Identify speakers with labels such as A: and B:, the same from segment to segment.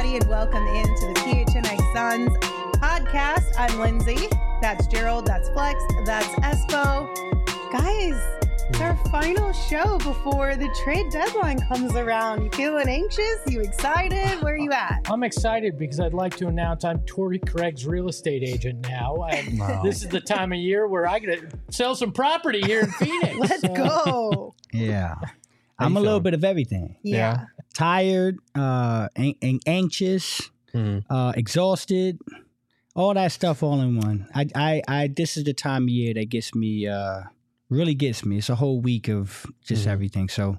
A: everybody, and welcome into the PHNX Suns podcast. I'm Lindsay. That's Gerald. That's Flex. That's Espo. Guys, it's our final show before the trade deadline comes around. You feeling anxious? You excited? Where are you at?
B: I'm excited because I'd like to announce I'm Torrey Craig's real estate agent now. And This is the time of year where I get to sell some property here in Phoenix.
A: Let's go.
C: Yeah. I'm a little bit of everything.
A: Yeah.
C: Tired, anxious, exhausted, all that stuff all in one. I this is the time of year that gets me, really gets me. It's a whole week of just everything. So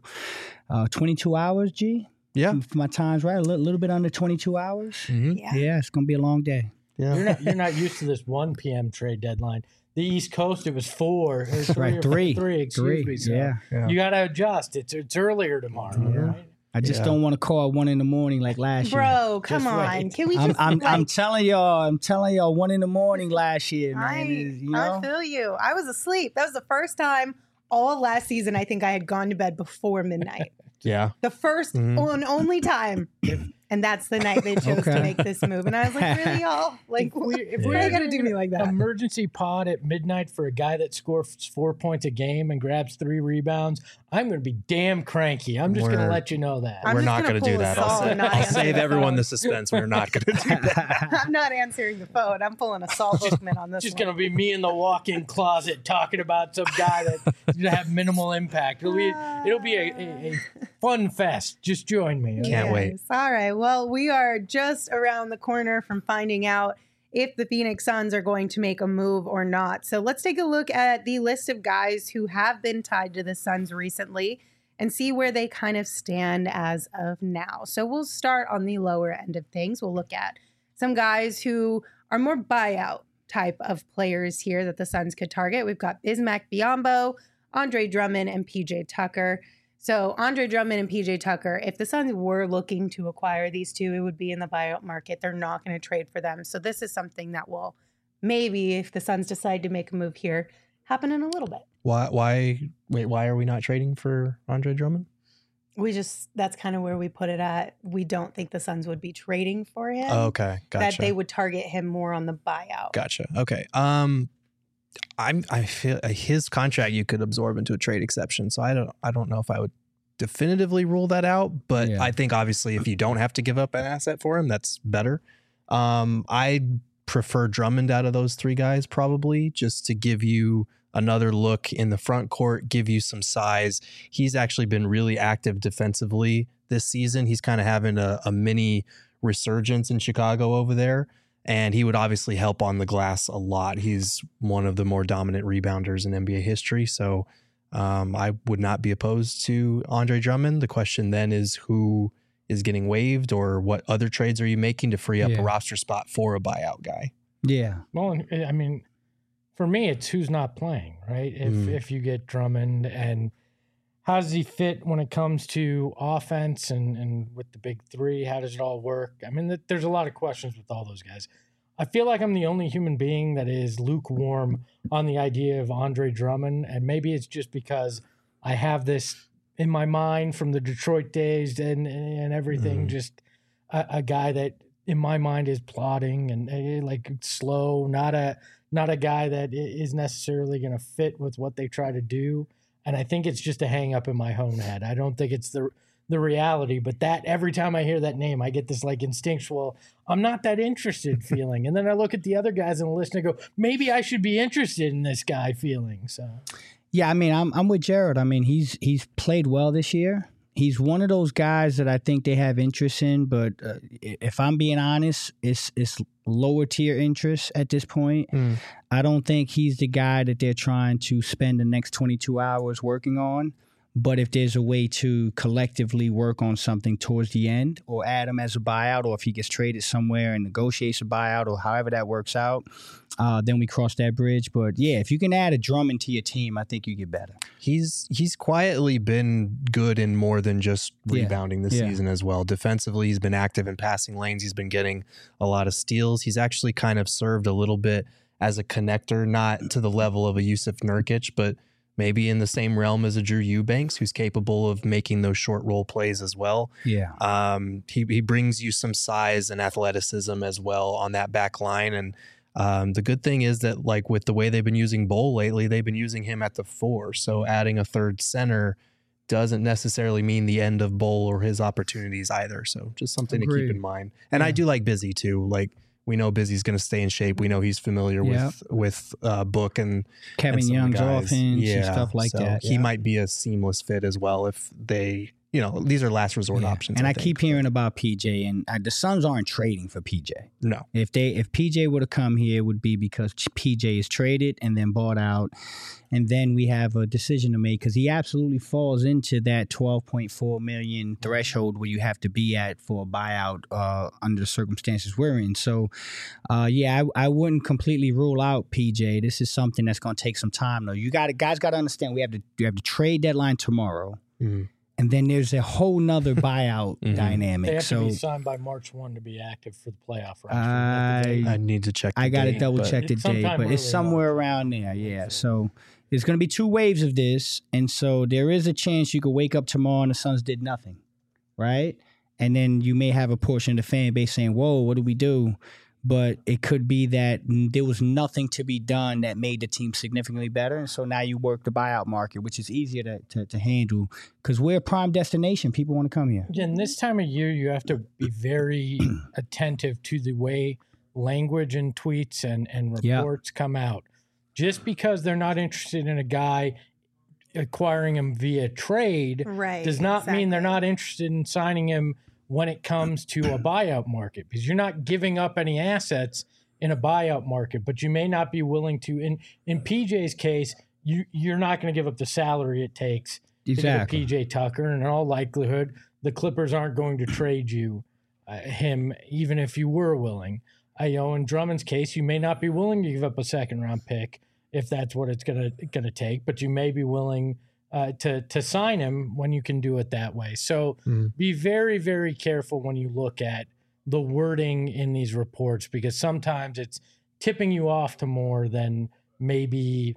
C: 22 hours, G?
D: Yeah.
C: If my time's right, a little bit under 22 hours.
A: Yeah.
C: Yeah, it's going to be a long day.
D: Yeah.
B: You're not used to this 1 p.m. trade deadline. The East Coast, it was 4. Or 3
C: Right,
B: or
C: three.
B: 3, excuse me. So
C: Yeah.
B: you got to adjust. It's earlier tomorrow, right?
C: I just don't want to call at 1 a.m. like last year.
A: Bro, come
B: Just
A: on.
B: wait.
A: Can we just
C: I'm telling y'all 1 a.m. last year, man.
A: I feel you. I was asleep. That was the first time all last season I think I had gone to bed before midnight.
D: Yeah.
A: The first and only time. And that's the night they chose to make this move. And I was like, really, y'all? Like,
B: If
A: why are you going to do me like that?
B: Emergency pod at midnight for a guy that scores 4 points a game and grabs 3 rebounds, I'm going to be damn cranky. I'm just going to let you know that.
A: I'm
D: We're
A: just
D: not
A: gonna
D: going to do
A: pull a
D: that.
A: Saul and not
D: I'll
A: answer
D: save
A: the
D: everyone
A: phone.
D: the suspense. We're not going to do that.
A: I'm not answering the phone. I'm pulling a Saul Bookman on this
B: Just
A: one.
B: going to be me in the walk-in closet talking about some guy that's going to have minimal impact. It'll be a fun fest. Just join me.
D: Can't wait.
A: Yes. All right. Well, we are just around the corner from finding out if the Phoenix Suns are going to make a move or not. So let's take a look at the list of guys who have been tied to the Suns recently and see where they kind of stand as of now. So we'll start on the lower end of things. We'll look at some guys who are more buyout type of players here that the Suns could target. We've got Bismack Biyombo, Andre Drummond, and PJ Tucker. So Andre Drummond and PJ Tucker, if the Suns were looking to acquire these two, it would be in the buyout market. They're not going to trade for them. So this is something that will maybe, if the Suns decide to make a move here, happen in a little bit.
D: Why are we not trading for Andre Drummond?
A: That's kind of where we put it at. We don't think the Suns would be trading for him.
D: Oh, okay. Gotcha.
A: That they would target him more on the buyout.
D: Gotcha. Okay. I feel his contract you could absorb into a trade exception. So I don't know if I would definitively rule that out, but I think obviously if you don't have to give up an asset for him, that's better. I prefer Drummond out of those 3 guys probably, just to give you another look in the front court, give you some size. He's actually been really active defensively this season. He's kind of having a mini resurgence in Chicago over there. And he would obviously help on the glass a lot. He's one of the more dominant rebounders in NBA history. So I would not be opposed to Andre Drummond. The question then is who is getting waived, or what other trades are you making to free up a roster spot for a buyout guy?
C: Yeah.
B: Well, I mean, for me, it's who's not playing, right? If you get Drummond, and how does he fit when it comes to offense and with the big 3? How does it all work? I mean, there's a lot of questions with all those guys. I feel like I'm the only human being that is lukewarm on the idea of Andre Drummond, and maybe it's just because I have this in my mind from the Detroit days and everything, just a guy that in my mind is plodding and like slow, not a guy that is necessarily going to fit with what they try to do. And I think it's just a hang up in my own head. I don't think it's the reality, but that every time I hear that name, I get this like instinctual, I'm not that interested feeling. And then I look at the other guys on the list and I go, maybe I should be interested in this guy feeling. So,
C: yeah, I mean, I'm with Jared. I mean, he's played well this year. He's one of those guys that I think they have interest in, but if I'm being honest, it's lower tier interest at this point. I don't think he's the guy that they're trying to spend the next 22 hours working on. But if there's a way to collectively work on something towards the end, or add him as a buyout, or if he gets traded somewhere and negotiates a buyout, or however that works out, then we cross that bridge. But yeah, if you can add a Drummond to your team, I think you get better.
D: He's quietly been good in more than just rebounding this season as well. Defensively, he's been active in passing lanes. He's been getting a lot of steals. He's actually kind of served a little bit as a connector, not to the level of a Yusuf Nurkic, but maybe in the same realm as a Drew Eubanks, who's capable of making those short roll plays as well.
C: Yeah.
D: He brings you some size and athleticism as well on that back line. And the good thing is that, like, with the way they've been using Bull lately, they've been using him at the 4. So adding a third center doesn't necessarily mean the end of Bull or his opportunities either. So just something to keep in mind. And I do like Busy too. Like, we know Busy's going to stay in shape. We know he's familiar with Book and
C: Kevin Young's offense and stuff like that.
D: He might be a seamless fit as well if they, these are last resort options.
C: And I keep hearing about PJ, and the Suns aren't trading for PJ.
D: No.
C: If PJ would have come here, it would be because PJ is traded and then bought out. And then we have a decision to make, because he absolutely falls into that $12.4 million threshold where you have to be at for a buyout under the circumstances we're in. So, I wouldn't completely rule out PJ. This is something that's going to take some time, though. Guys got to understand, you have the trade deadline tomorrow. Mm-hmm. And then there's a whole nother buyout dynamic.
B: They have to be signed by March 1 to be active for the playoff roster.
D: I need to check the
C: date. I got to double check the date, but it's somewhere around there. Yeah. So there's going to be 2 waves of this. And so there is a chance you could wake up tomorrow and the Suns did nothing, right? And then you may have a portion of the fan base saying, whoa, what do we do? But it could be that there was nothing to be done that made the team significantly better. And so now you work the buyout market, which is easier to handle because we're a prime destination. People want to come here.
B: And this time of year, you have to be very attentive to the way language and tweets and reports come out. Just because they're not interested in a guy acquiring him via trade does not mean they're not interested in signing him when it comes to a buyout market, because you're not giving up any assets in a buyout market, but you may not be willing to. In PJ's case, you're not going to give up the salary it takes to get PJ Tucker, and in all likelihood, the Clippers aren't going to trade you him, even if you were willing. In Drummond's case, you may not be willing to give up a second-round pick if that's what it's going to take, but you may be willing to sign him when you can do it that way. So be very, very careful when you look at the wording in these reports, because sometimes it's tipping you off to more than maybe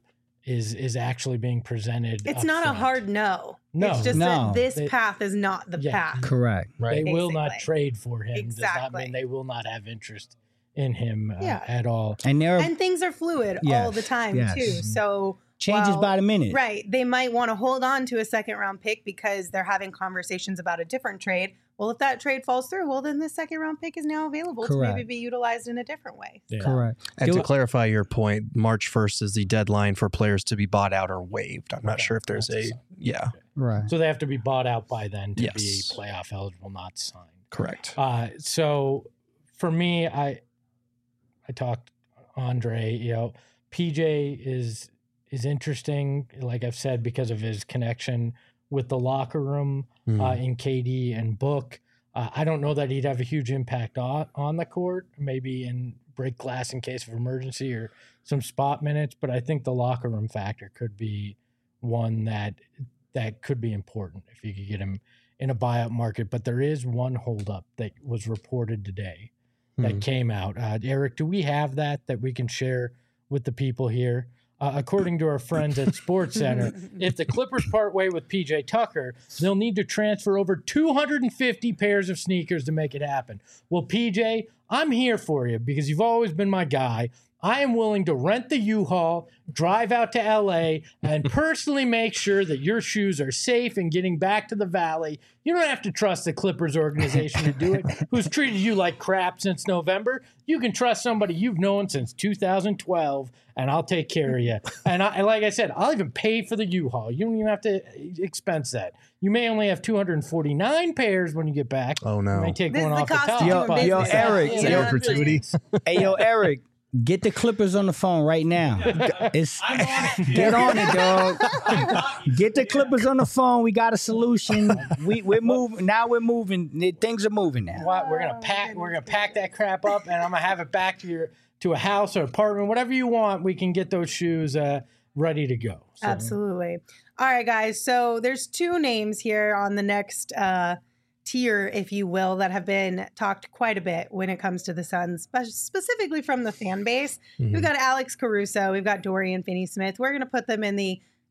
B: is actually being presented.
A: It's not a hard no. It's just that this path is not the path.
C: Correct.
B: Right. They will not trade for him. Exactly. Does not mean they will not have interest in him at all.
A: And things are fluid all the time too. So
C: changes by the minute.
A: Right. They might want to hold on to a second round pick because they're having conversations about a different trade. Well, if that trade falls through, well, then this second round pick is now available to maybe be utilized in a different way.
C: Yeah. Correct.
D: And to clarify your point, March 1st is the deadline for players to be bought out or waived. I'm not sure if there's
C: Right.
B: So they have to be bought out by then to be playoff eligible, not signed.
D: Correct.
B: So for me, I talked Andre, PJ is interesting, like I've said, because of his connection with the locker room in KD and Book. I don't know that he'd have a huge impact on the court, maybe in break glass in case of emergency or some spot minutes, but I think the locker room factor could be one that could be important if you could get him in a buyout market. But there is one holdup that was reported today that came out. Eric, do we have that we can share with the people here? According to our friends at SportsCenter, if the Clippers part way with PJ Tucker, they'll need to transfer over 250 pairs of sneakers to make it happen. Well, PJ, I'm here for you because you've always been my guy. I am willing to rent the U-Haul, drive out to LA, and personally make sure that your shoes are safe and getting back to the Valley. You don't have to trust the Clippers organization to do it, who's treated you like crap since November. You can trust somebody you've known since 2012, and I'll take care of you. And like I said, I'll even pay for the U-Haul. You don't even have to expense that. You may only have 249 pairs when you get back.
D: Oh, no.
B: You may take one off the top.
C: Yo, Eric.
D: Gratuities.
C: Hey, yo, Eric. Get the Clippers on the phone right now. Get on it, dog. Get the Clippers on the phone. We got a solution. We're moving. Now we're moving. Things are moving now.
B: We're gonna pack that crap up, and I'm gonna have it back to a house or apartment, whatever you want. We can get those shoes ready to go.
A: So. Absolutely. All right, guys. So there's 2 names here on the next tier, if you will, that have been talked quite a bit when it comes to the Suns, specifically from the fan base. We've got Alex Caruso. We've got Dorian Finney-Smith. We're going to put them in the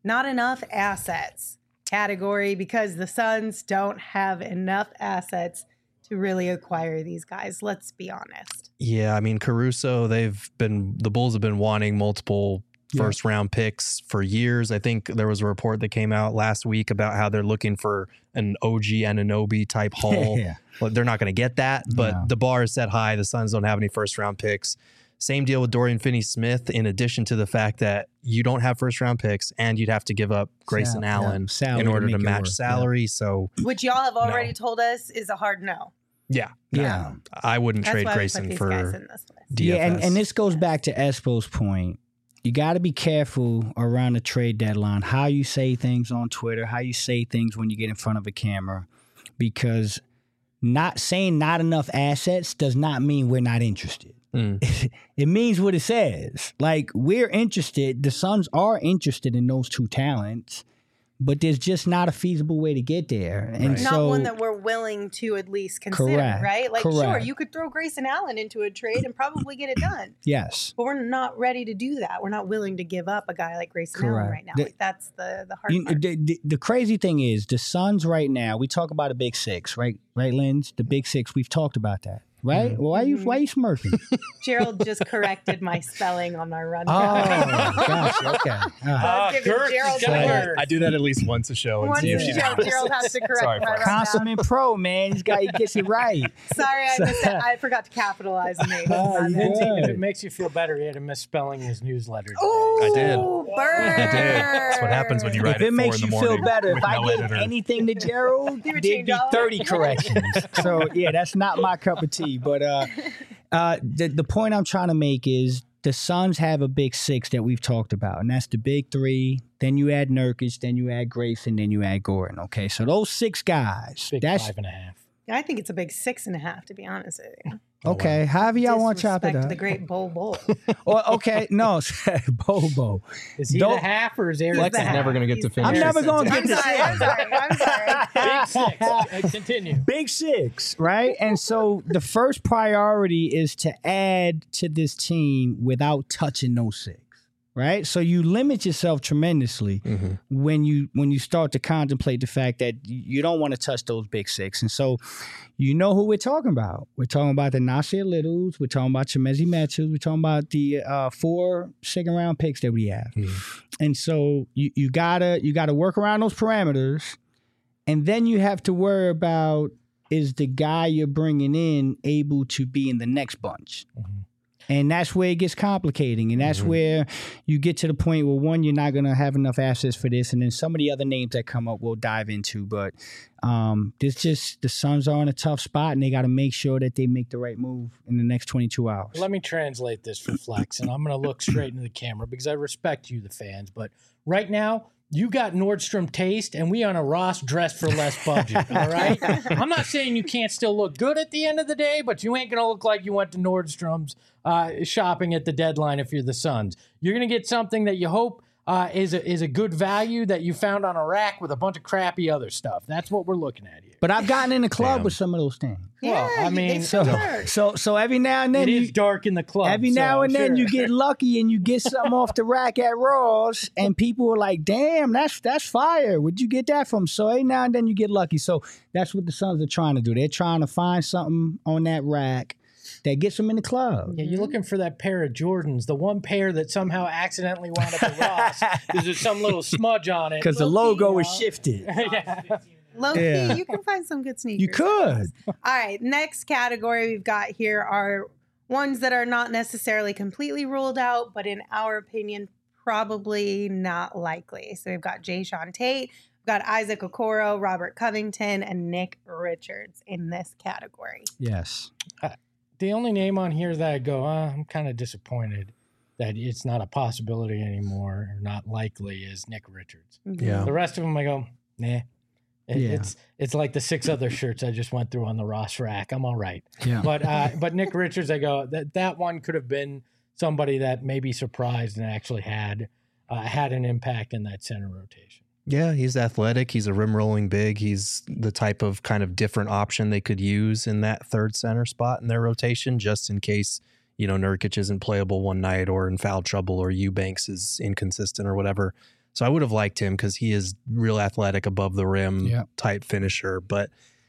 A: not enough assets category, because the Suns don't have enough assets to really acquire these guys. Let's be honest.
D: Yeah, I mean, Caruso, the Bulls have been wanting multiple first round picks for years. I think there was a report that came out last week about how they're looking for an OG Anunoby type haul. Well, they're not going to get that, but the bar is set high. The Suns don't have any first round picks. Same deal with Dorian Finney-Smith, in addition to the fact that you don't have first round picks and you'd have to give up Grayson Allen in order to match salary. So,
A: which y'all have already told us is a hard no.
D: Yeah. I wouldn't trade Grayson for DFS.
C: Yeah, and this goes back to Espo's point. You got to be careful around the trade deadline, how you say things on Twitter, how you say things when you get in front of a camera, because not saying not enough assets does not mean we're not interested. It means what it says. Like, we're interested. The Suns are interested in those two talents, but there's just not a feasible way to get there. And
A: not one that we're willing to at least consider, right? Like, sure, you could throw Grayson Allen into a trade and probably get it done.
C: Yes.
A: But we're not ready to do that. We're not willing to give up a guy like Grayson Allen right now. Like, that's the hard part.
C: The crazy thing is, the Suns right now, we talk about a big six, right? Right, Linz? The big six, we've talked about that. Right? Why are you smirking?
A: Gerald just corrected my spelling on my run.
C: Oh, gosh. Okay.
D: I do that at least once a show.
A: Gerald has to correct my rundown.
C: Consummate pro, man. He gets it right.
A: Sorry, I missed it. I forgot to capitalize the name.
B: If it makes you feel better, he had a misspelling his newsletter today.
D: I did.
A: Burn.
D: I did. That's what happens when you write
C: it 4 in the morning. If it makes you feel better, if I gave anything to Gerald, there'd be 30 corrections. So, yeah, that's not my cup of tea. But the point I'm trying to make is the Suns have a big six that we've talked about, and that's the big three. Then you add Nurkic, then you add Grayson, then you add Gordon. Okay, so those 6 guys.
B: That's 5.5.
A: I think it's a big 6.5, to be honest with you.
C: Okay, however y'all want to chop it up.
A: The great Bo.
C: Okay, no, Bo.
B: Is he the half or is Aaron?
D: Flex is never going to get to finish.
C: I'm never going to get to
A: I'm sorry.
B: Big 6. Continue.
C: Big 6, right? And so the first priority is to add to this team without touching those 6. Right, so you limit yourself tremendously when you start to contemplate the fact that you don't want to touch those big 6. And so, you know who we're talking about. We're talking about the Nasir Littles. We're talking about Chimezie Metu. We're talking about the 4 second-round picks that we have. And so you gotta work around those parameters, and then you have to worry about, is the guy you're bringing in able to be in the next bunch. And that's where it gets complicating. And that's where you get to the point where, one, you're not going to have enough assets for this. And then some of the other names that come up we'll dive into. But the Suns are in a tough spot, and they got to make sure that they make the right move in the next 22 hours.
B: Let me translate this for Flex, and I'm going to look straight into the camera because I respect you, the fans. But right now, you got Nordstrom taste, and we on a Ross dress for less budget, all right? I'm not saying you can't still look good at the end of the day, but you ain't going to look like you went to Nordstrom's shopping at the deadline if you're the Suns. You're going to get something that you hope is a good value that you found on a rack with a bunch of crappy other stuff. That's what we're looking at here.
C: But I've gotten in the club with some of those things.
A: Yeah,
B: well, I mean,
C: so every now and then
B: it is dark in the club.
C: Every now and then you get lucky and you get something off the rack at Ross, and people are like, "Damn, that's fire. Where'd you get that from?" So every now and then you get lucky. So that's what the Suns are trying to do. They're trying to find something on that rack that gets them in the club.
B: Yeah, you're looking for that pair of Jordans, the one pair that somehow accidentally wound up at Ross because there's some little smudge on it.
C: Because the logo is shifted.
A: Low-key, you can find some good sneakers.
C: You could.
A: All right, next category we've got here are ones that are not necessarily completely ruled out, but in our opinion, probably not likely. So we've got Jae'Sean Tate, we've got Isaac Okoro, Robert Covington, and Nick Richards in this category.
C: Yes.
B: The only name on here that I go, I'm kind of disappointed that it's not a possibility anymore or not likely is Nick Richards.
D: Yeah.
B: The rest of them I go, nah. It's like the 6 other shirts I just went through on the Ross rack. I'm all right.
C: Yeah.
B: But Nick Richards, I go, that one could have been somebody that maybe surprised and actually had an impact in that center rotation.
D: Yeah, he's athletic. He's a rim rolling big. He's the type of kind of different option they could use in that third center spot in their rotation, just in case, Nurkic isn't playable one night or in foul trouble or Eubanks is inconsistent or whatever. So I would have liked him because he is real athletic, above the rim type finisher. But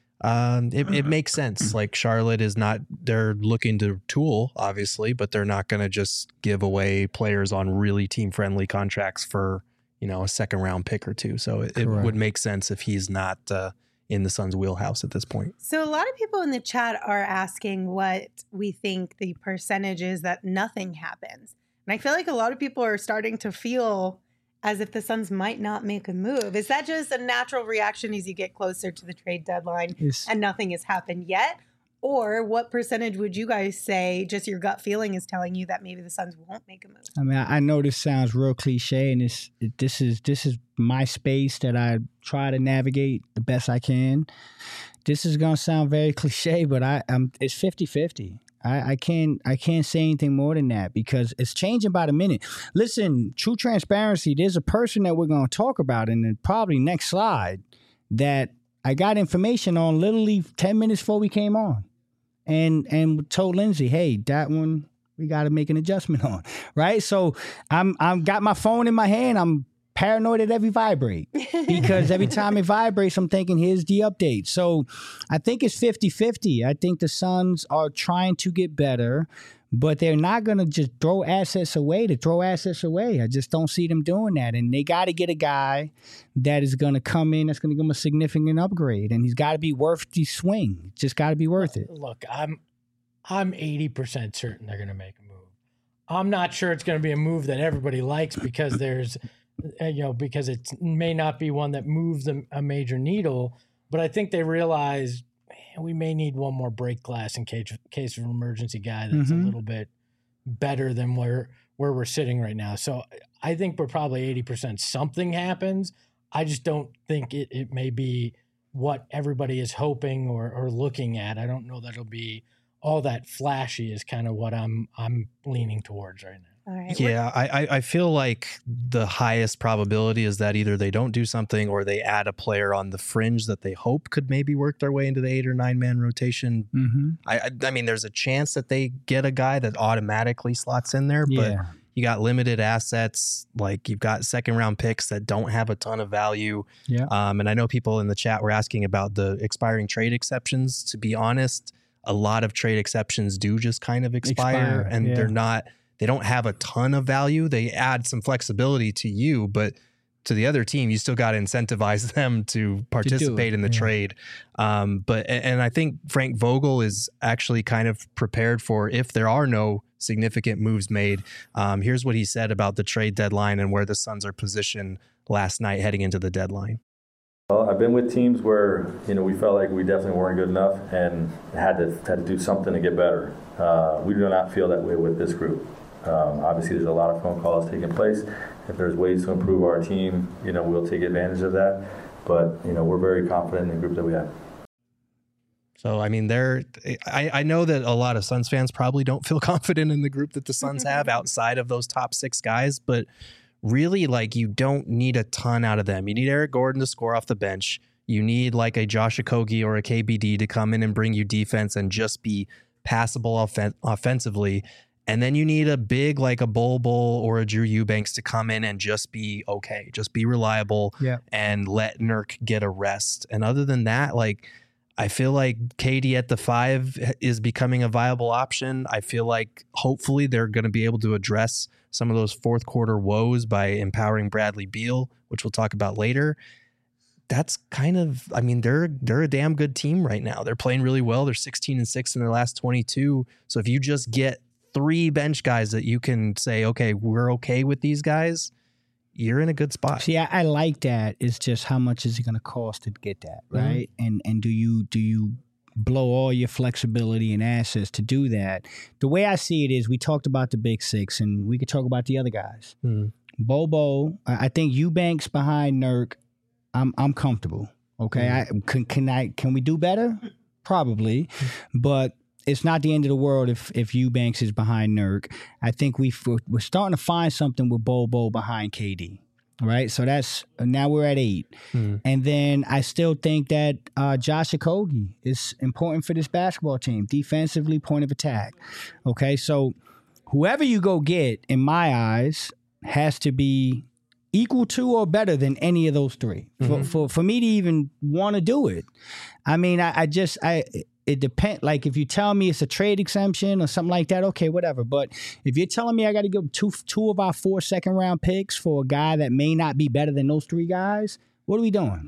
D: it makes sense. Like Charlotte is not, they're looking to tool, obviously, but they're not going to just give away players on really team friendly contracts for, you know, a second round pick or two. So it would make sense if he's not in the Suns' wheelhouse at this point.
A: So a lot of people in the chat are asking what we think the percentage is that nothing happens. And I feel like a lot of people are starting to feel as if the Suns might not make a move. Is that just a natural reaction as you get closer to the trade deadline and nothing has happened yet? Or what percentage would you guys say just your gut feeling is telling you that maybe the Suns won't make a move?
C: I mean, I know this sounds real cliche, and this is my space that I try to navigate the best I can. This is going to sound very cliche, but it's 50-50. I can't say anything more than that because it's changing by the minute. Listen, true transparency, there's a person that we're going to talk about in the probably next slide that I got information on literally 10 minutes before we came on and told Lindsay, hey, that one we got to make an adjustment on, right? So I'm got my phone in my hand. I'm paranoid at every vibrate because every time it vibrates, I'm thinking, here's the update. So I think it's 50-50. I think the Suns are trying to get better, but they're not going to just throw assets away to throw assets away. I just don't see them doing that. And they got to get a guy that is going to come in, that's going to give them a significant upgrade. And he's got to be worth the swing. Just got to be worth it.
B: Look, I'm 80% certain they're going to make a move. I'm not sure it's going to be a move that everybody likes because there's because it may not be one that moves a major needle, but I think they realize we may need one more break glass in case of an emergency guy that's a little bit better than where we're sitting right now. So I think we're probably 80% something happens. I just don't think it may be what everybody is hoping or looking at. I don't know that it'll be all that flashy is kind of what I'm leaning towards right now.
A: All right.
D: Yeah, I feel like the highest probability is that either they don't do something or they add a player on the fringe that they hope could maybe work their way into the 8 or 9 man rotation. I mean, there's a chance that they get a guy that automatically slots in there, but you got limited assets. Like you've got second round picks that don't have a ton of value. And I know people in the chat were asking about the expiring trade exceptions. To be honest, a lot of trade exceptions do just kind of expire and they don't have a ton of value. They add some flexibility to you, but to the other team, you still got to incentivize them to participate in the trade. But I think Frank Vogel is actually kind of prepared for if there are no significant moves made. Here's what he said about the trade deadline and where the Suns are positioned last night heading into the deadline.
E: Well, I've been with teams where we felt like we definitely weren't good enough and had to do something to get better. We do not feel that way with this group. Obviously, there's a lot of phone calls taking place. If there's ways to improve our team, we'll take advantage of that. But, we're very confident in the group that we have.
D: So, I mean, I know that a lot of Suns fans probably don't feel confident in the group that the Suns have outside of those top 6 guys. But really, like, you don't need a ton out of them. You need Eric Gordon to score off the bench. You need like a Josh Okogie or a KBD to come in and bring you defense and just be passable offensively. And then you need a big like a Bol Bol or a Drew Eubanks to come in and just be okay, just be reliable and let Nurk get a rest. And other than that, like I feel like KD at the 5 is becoming a viable option. I feel like hopefully they're going to be able to address some of those fourth quarter woes by empowering Bradley Beal, which we'll talk about later. That's kind of, I mean, they're a damn good team right now. They're playing really well. They're 16-6 in their last 22. So if you just get 3 bench guys that you can say, okay, we're okay with these guys, you're in a good spot.
C: See, I like that. It's just how much is it going to cost to get that, right? And do you blow all your flexibility and assets to do that? The way I see it is we talked about the big 6, and we could talk about the other guys. Bobo, I think Eubanks behind Nurk, I'm comfortable. Okay, can we do better? Probably, but it's not the end of the world if Eubanks is behind Nurk. I think we're starting to find something with Bobo behind KD, right? So now we're at 8. And then I still think that Josh Okogie is important for this basketball team, defensively, point of attack. Okay, so whoever you go get, in my eyes, has to be equal to or better than any of those three. For me to even want to do it. I mean, it depends. Like if you tell me it's a trade exemption or something like that, okay, whatever. But if you're telling me I got to give two of our 4 second-round picks for a guy that may not be better than those 3 guys, what are we doing?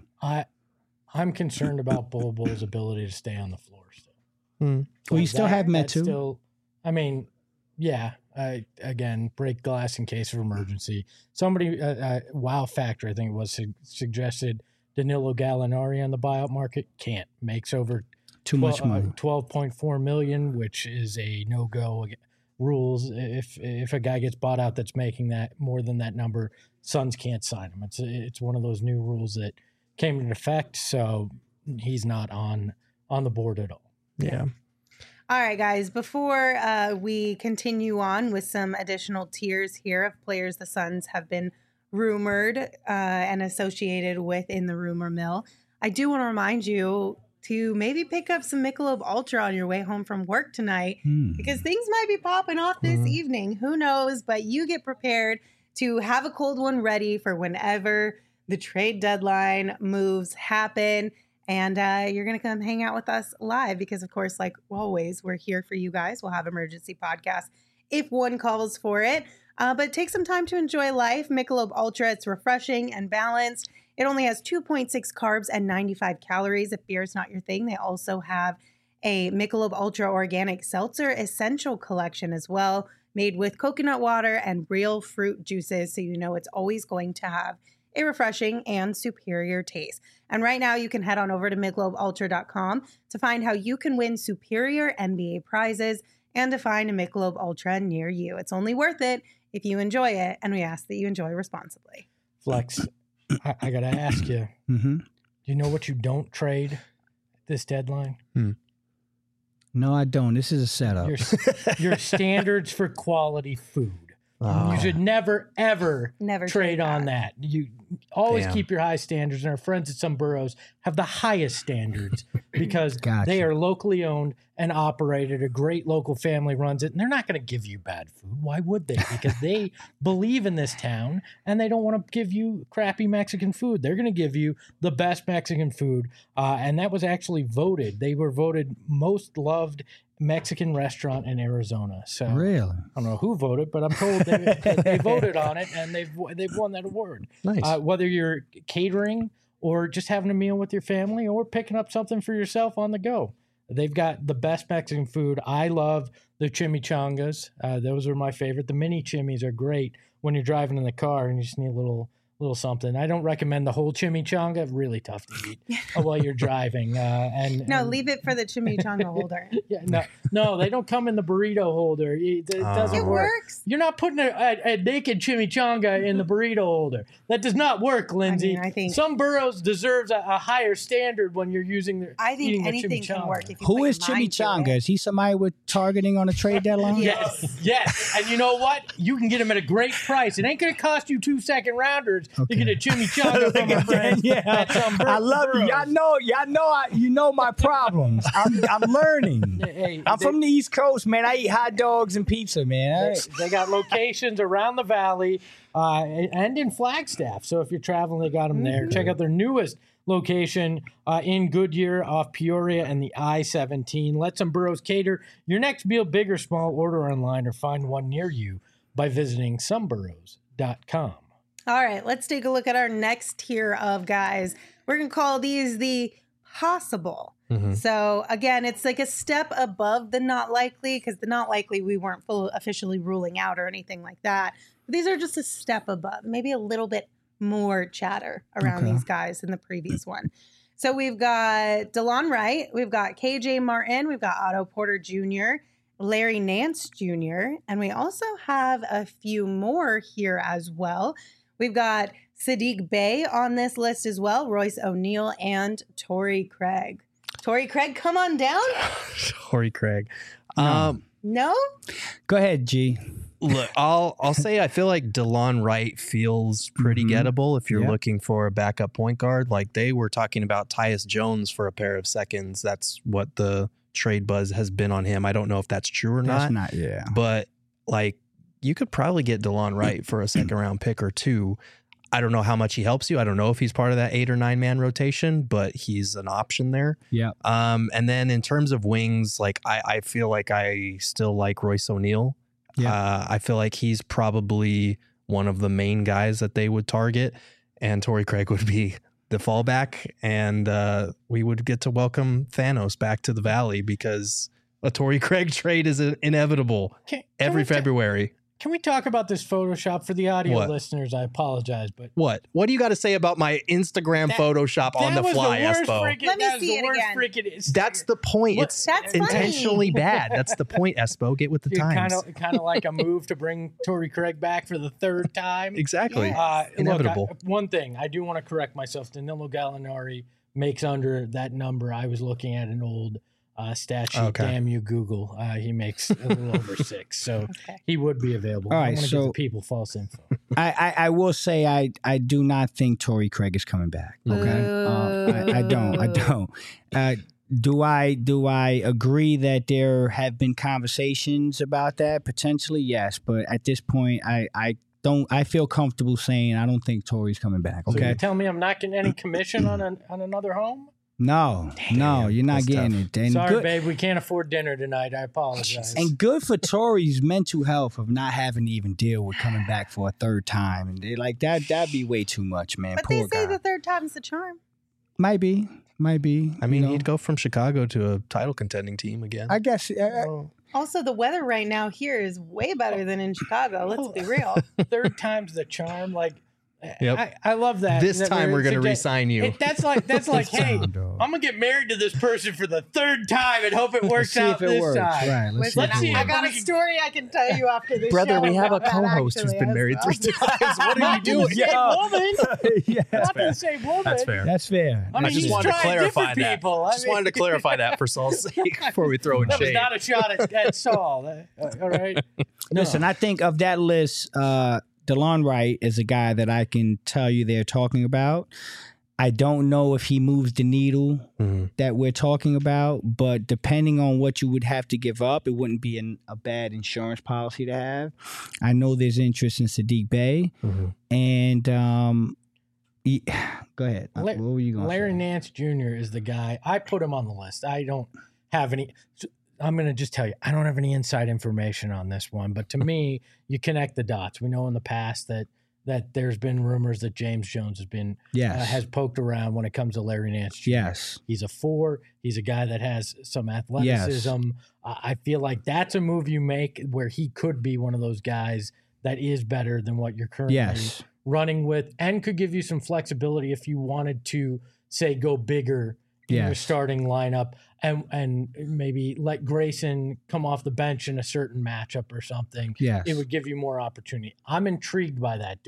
B: I'm concerned about Bol Bol's ability to stay on the floor still.
C: Well, you still have Metu.
B: Still, I mean, yeah. Again, break glass in case of emergency. Somebody, wow factor, I think it was suggested Danilo Gallinari on the buyout market. Can't. Makes over
C: too much money.
B: 12.4 million, which is a no-go rules. If a guy gets bought out that's making that more than that number, Suns can't sign him. It's one of those new rules that came into effect, so he's not on the board at all.
D: Yeah.
A: All right, guys, before we continue on with some additional tiers here of players the Suns have been rumored and associated with in the rumor mill, I do want to remind you to maybe pick up some Michelob Ultra on your way home from work tonight because things might be popping off this evening. Who knows? But you get prepared to have a cold one ready for whenever the trade deadline moves happen. And you're going to come hang out with us live because, of course, like always, we're here for you guys. We'll have emergency podcasts if one calls for it. But take some time to enjoy life. Michelob Ultra, it's refreshing and balanced. It only has 2.6 carbs and 95 calories. If beer is not your thing, they also have a Michelob Ultra Organic Seltzer Essential Collection as well, made with coconut water and real fruit juices. So you know it's always going to have a refreshing and superior taste. And right now you can head on over to MichelobUltra.com to find how you can win superior NBA prizes and to find a Michelob Ultra near you. It's only worth it if you enjoy it, and we ask that you enjoy responsibly.
B: Flex, I got to ask you, do you know what you don't trade at this deadline?
C: No, I don't. This is a setup.
B: Your standards for quality food. You should never trade on that. You always keep your high standards, and our friends at Some Burros have the highest standards because they are locally owned and operated. A great local family runs it, and they're not going to give you bad food. Why would they? Because they believe in this town, and they don't want to give you crappy Mexican food. They're going to give you the best Mexican food, and that was actually voted. They were voted most loved Mexican restaurant in Arizona. So
C: really,
B: I don't know who voted, but I'm told they voted on it and they've won that award.
D: Nice.
B: Whether you're catering or just having a meal with your family or picking up something for yourself on the go, they've got the best Mexican food. I love the chimichangas. Those are my favorite. The mini chimis are great when you're driving in the car and you just need a little something. I don't recommend the whole chimichanga. Really tough to eat while you're driving.
A: Leave it for the chimichanga holder.
B: Yeah, no, they don't come in the burrito holder. It doesn't work.
A: Works.
B: You're not putting a naked chimichanga in the burrito holder. That does not work, Lindsay.
A: I think
B: Some Burros deserves a higher standard when you're using their.
A: I think anything can work. If you
C: Who is Chimichanga? Is he somebody we're targeting on a trade deadline?
B: Yes. And you know what? You can get him at a great price. It ain't going to cost you 2 second rounders to get a chimichanga from a friend.
C: I love you. Y'all know my problems. I'm learning. I'm from the East Coast, man. I eat hot dogs and pizza, man.
B: They got locations around the valley and in Flagstaff. So if you're traveling, they got them there. Check out their newest location in Goodyear off Peoria and the I-17. Let Some Burros cater your next meal, big or small. Order online or find one near you by visiting someburros.com.
A: All right, let's take a look at our next tier of guys. We're going to call these the possible. So again, it's like a step above the not likely, because the not likely we weren't officially ruling out or anything like that. But these are just a step above, maybe a little bit more chatter around these guys than the previous one. So we've got DeLon Wright, we've got KJ Martin, we've got Otto Porter Jr., Larry Nance Jr., and we also have a few more here as well. We've got Sadiq Bey on this list as well, Royce O'Neal, and Torrey Craig. Torrey Craig, come on down.
D: Torrey Craig.
A: No?
C: Go ahead, G.
D: Look, I'll say I feel like DeLon Wright feels pretty gettable if you're looking for a backup point guard. Like they were talking about Tyus Jones for a pair of seconds. That's what the trade buzz has been on him. I don't know if that's true or not.
C: That's not,
D: But like you could probably get DeLon Wright for a second round pick or two. I don't know how much he helps you. I don't know if he's part of that 8 or 9 man rotation, but he's an option there.
C: Yeah.
D: And then in terms of wings, like I feel like I still like Royce O'Neal.
C: Yeah.
D: I feel like he's probably one of the main guys that they would target, and Torrey Craig would be the fallback, and we would get to welcome Thanos back to the Valley because a Torrey Craig trade is inevitable every February.
B: Can we talk about this Photoshop for the audio listeners? I apologize, but
D: what do you got to say about my Instagram Photoshop on the fly, Espo?
A: Let me see it again.
D: That's the point. It's intentionally bad. That's the point, Espo. Get with the times.
B: Kind of like a move to bring Torrey Craig back for the 3rd time.
D: Exactly.
B: Inevitable. Look, one thing I do want to correct myself. Danilo Gallinari makes under that number. I was looking at an old stat sheet. Okay. Damn you, Google. He makes a little over 6, so he would be available.
C: All right,
B: I want to give the people false info.
C: I will say I do not think Torrey Craig is coming back. Okay, I don't. Do I agree that there have been conversations about that? Potentially, yes, but at this point, I feel comfortable saying I don't think Torrey's coming back. Okay,
B: so you tell me I'm not getting any commission on another home?
C: No, you're not getting it. And
B: sorry, babe, we can't afford dinner tonight. I apologize.
C: And good for Torrey's mental health of not having to even deal with coming back for a 3rd time. And they like that'd be way too much, man.
A: But
C: Poor
A: they say
C: guy.
A: the 3rd time's the charm.
C: Might be. I mean,
D: he'd go from Chicago to a title contending team again.
C: I guess.
A: Also, the weather right now here is way better than in Chicago. Let's be real.
B: 3rd time's the charm. Like,
D: yep.
B: I love that.
D: This time we're going to re-sign you.
B: That's like, hey, I'm going to get married to this person for the 3rd time and hope it works out this time.
C: Right,
A: let's see. I got a story I can tell you after this
D: Brother,
A: show.
D: We have a co-host who's been married 3 times. What are you doing?
B: Not the same woman.
D: That's fair.
C: That's fair.
B: I mean,
D: just wanted to clarify that. Wanted to clarify that for Saul's sake before we throw in shade.
B: That was not a shot at Saul. All right.
C: Listen, I think of that list, DeLon Wright is a guy that I can tell you they're talking about. I don't know if he moves the needle that we're talking about, but depending on what you would have to give up, it wouldn't be a bad insurance policy to have. I know there's interest in Sadiq Bey, and go ahead. What were you going to say?
B: Larry Nance Jr. is the guy. I put him on the list. I don't have any. I'm going to just tell you, I don't have any inside information on this one, but to me, you connect the dots. We know in the past that there's been rumors that James Jones has been has poked around when it comes to Larry Nance Jr.
C: Yes.
B: He's a 4. He's a guy that has some athleticism. Yes. I feel like that's a move you make where he could be one of those guys that is better than what you're currently running with and could give you some flexibility if you wanted to, say, go bigger in your starting lineup and maybe let Grayson come off the bench in a certain matchup or something.
C: Yes.
B: It would give you more opportunity. I'm intrigued by that.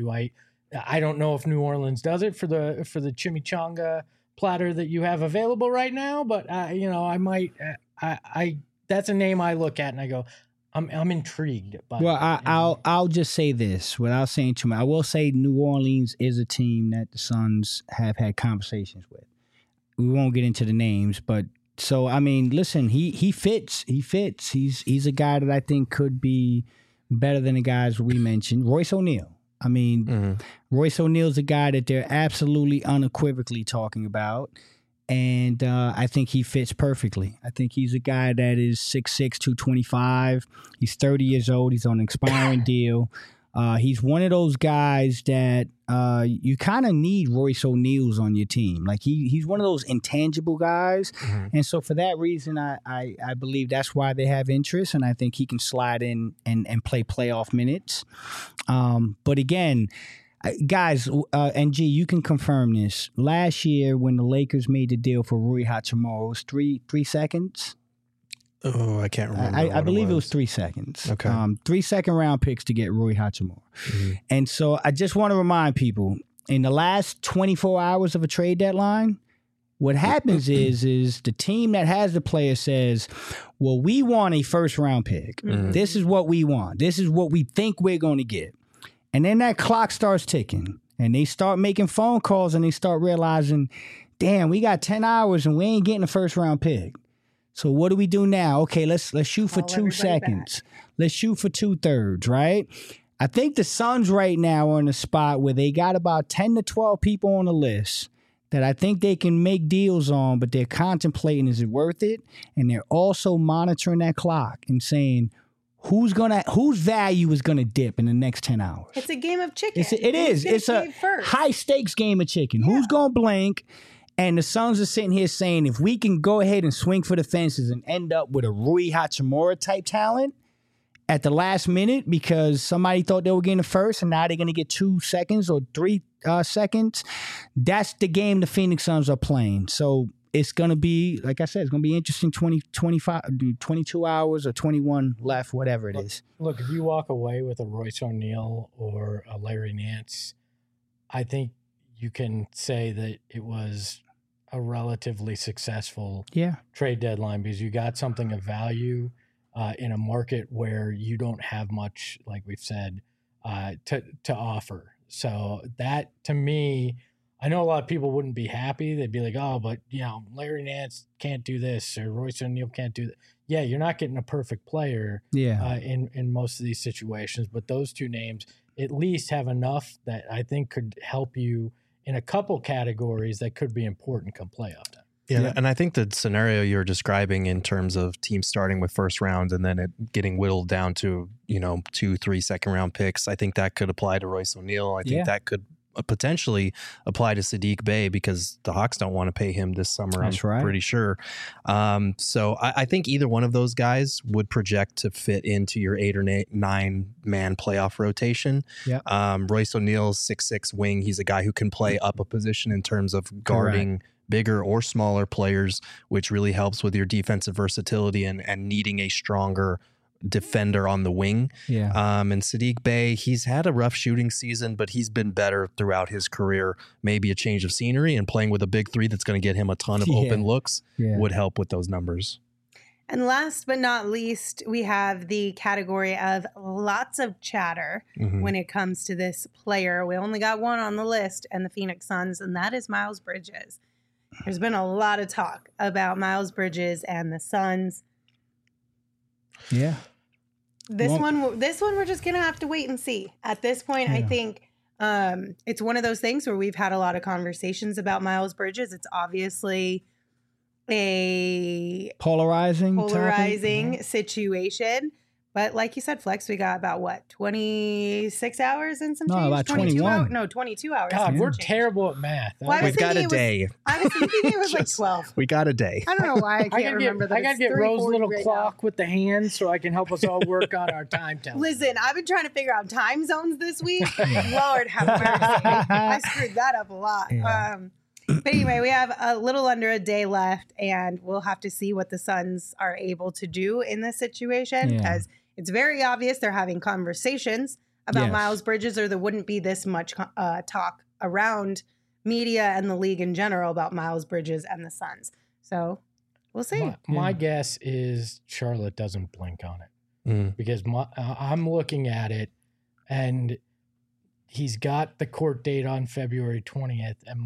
B: I don't know if New Orleans does it for the chimichanga platter that you have available right now, but I might that's a name I look at and I go, I'm intrigued by.
C: Well, I'll just say this without saying too much. I will say New Orleans is a team that the Suns have had conversations with. We won't get into the names, but so I mean, listen, he fits. He fits. He's a guy that I think could be better than the guys we mentioned. Royce O'Neal. I mean, Royce O'Neal's a guy that they're absolutely unequivocally talking about, and I think he fits perfectly. I think he's a guy that is 6'6", 225. He's 30 years old. He's on an expiring deal. He's one of those guys that you kind of need Royce O'Neal's on your team. Like he's one of those intangible guys. And so for that reason, I believe that's why they have interest. And I think he can slide in and play playoff minutes. But again, guys, and G, you can confirm this. Last year when the Lakers made the deal for Rui Hachimura, it was 3 seconds.
D: Oh, I can't remember.
C: I believe it was 3 seconds.
D: Okay.
C: 3 second-round picks to get Rui Hachimura. And so I just want to remind people, in the last 24 hours of a trade deadline, what happens is the team that has the player says, well, we want a first-round pick. This is what we want. This is what we think we're going to get. And then that clock starts ticking, and they start making phone calls, and they start realizing, damn, we got 10 hours, and we ain't getting a first-round pick. So what do we do now? Okay, let's shoot for 2 seconds. Let's shoot for 2/3, right? I think the Suns right now are in a spot where they got about 10 to 12 people on the list that I think they can make deals on, but they're contemplating, is it worth it? And they're also monitoring that clock and saying, whose value is gonna dip in the next 10 hours?
A: It's a game of chicken.
C: It's a high stakes game of chicken. Yeah. Who's gonna blink? And the Suns are sitting here saying, if we can go ahead and swing for the fences and end up with a Rui Hachimura type talent at the last minute because somebody thought they were getting the first and now they're going to get 2 seconds or 3 seconds, that's the game the Phoenix Suns are playing. So it's going to be, like I said, it's going to be interesting 22 hours or 21 left, whatever it is.
B: Look, if you walk away with a Royce O'Neal or a Larry Nance, I think you can say that it was a relatively successful trade deadline because you got something of value in a market where you don't have much, like we've said, to offer. So that, to me, I know a lot of people wouldn't be happy. They'd be like, oh, but, Larry Nance can't do this or Royce O'Neal can't do that. Yeah, you're not getting a perfect player in most of these situations, but those two names at least have enough that I think could help you in a couple categories that could be important come playoff time.
D: Yeah, and I think the scenario you're describing in terms of teams starting with first round and then it getting whittled down to, 2-3 second round picks, I think that could apply to Royce O'Neal. I think that could potentially apply to Saddiq Bey because the Hawks don't want to pay him this summer.
C: That's
D: I'm pretty sure. So I think either one of those guys would project to fit into your 8 or 9 man playoff rotation.
C: Yeah.
D: Royce O'Neal's 6'6" wing. He's a guy who can play up a position in terms of guarding bigger or smaller players, which really helps with your defensive versatility and needing a stronger defender on the wing.
C: Yeah.
D: And Saddiq Bey, he's had a rough shooting season, but he's been better throughout his career. Maybe a change of scenery and playing with a big three that's going to get him a ton of open looks would help with those numbers.
A: And last but not least, we have the category of lots of chatter when it comes to this player. We only got one on the list and the Phoenix Suns, and that is Miles Bridges. There's been a lot of talk about Miles Bridges and the Suns.
C: Yeah.
A: This one we're just going to have to wait and see. At this point, I think it's one of those things where we've had a lot of conversations about Miles Bridges. It's obviously a polarizing situation. But like you said, Flex, we got about 26 hours and some change?
C: About 21.
A: 22 hours.
B: God, we're terrible at math.
D: We've got a day.
A: I was thinking it was like 12.
D: We got a day.
A: I don't know why I can't remember that.
B: I got to get Rose's little clock with the hands so I can help us all work on our time telling.
A: Listen, I've been trying to figure out time zones this week. Lord have mercy. I screwed that up a lot.
C: Yeah.
A: But anyway, we have a little under a day left, and we'll have to see what the Suns are able to do in this situation because it's very obvious they're having conversations about Miles Bridges, or there wouldn't be this much talk around media and the league in general about Miles Bridges and the Suns. So we'll see.
B: My guess is Charlotte doesn't blink on it because I'm looking at it, and he's got the court date on February 20th, and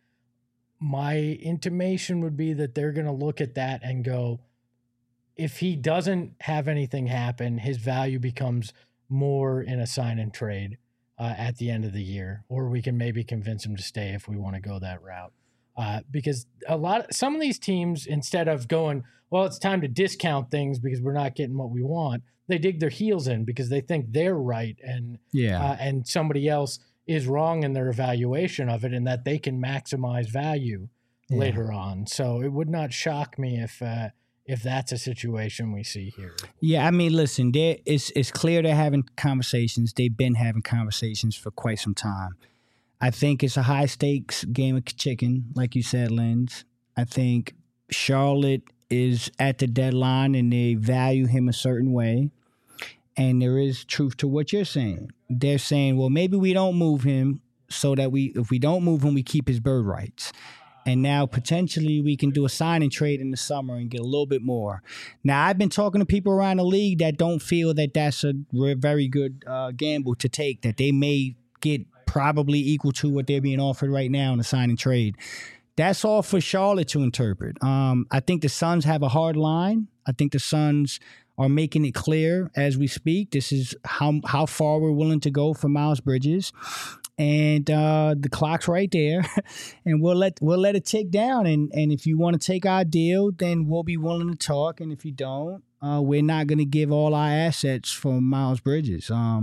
B: my intimation would be that they're going to look at that and go, if he doesn't have anything happen, his value becomes more in a sign and trade at the end of the year, or we can maybe convince him to stay if we want to go that route. Because some of these teams, instead of going, well, it's time to discount things because we're not getting what we want, they dig their heels in because they think they're right and somebody else is wrong in their evaluation of it, and that they can maximize value later on. So it would not shock me if that's a situation we see here.
C: Yeah, I mean, listen, it's clear they're having conversations. They've been having conversations for quite some time. I think it's a high-stakes game of chicken, like you said, Linz. I think Charlotte is at the deadline, and they value him a certain way. And there is truth to what you're saying. They're saying, well, maybe we don't move him so that if we don't move him, we keep his bird rights. And now potentially we can do a sign and trade in the summer and get a little bit more. Now, I've been talking to people around the league that don't feel that that's a very good gamble to take, that they may get probably equal to what they're being offered right now in a sign and trade. That's all for Charlotte to interpret. I think the Suns have a hard line. I think the Suns are making it clear as we speak. This is how far we're willing to go for Miles Bridges. And the clock's right there, and we'll let it tick down. And if you want to take our deal, then we'll be willing to talk. And if you don't, we're not going to give all our assets for Miles Bridges.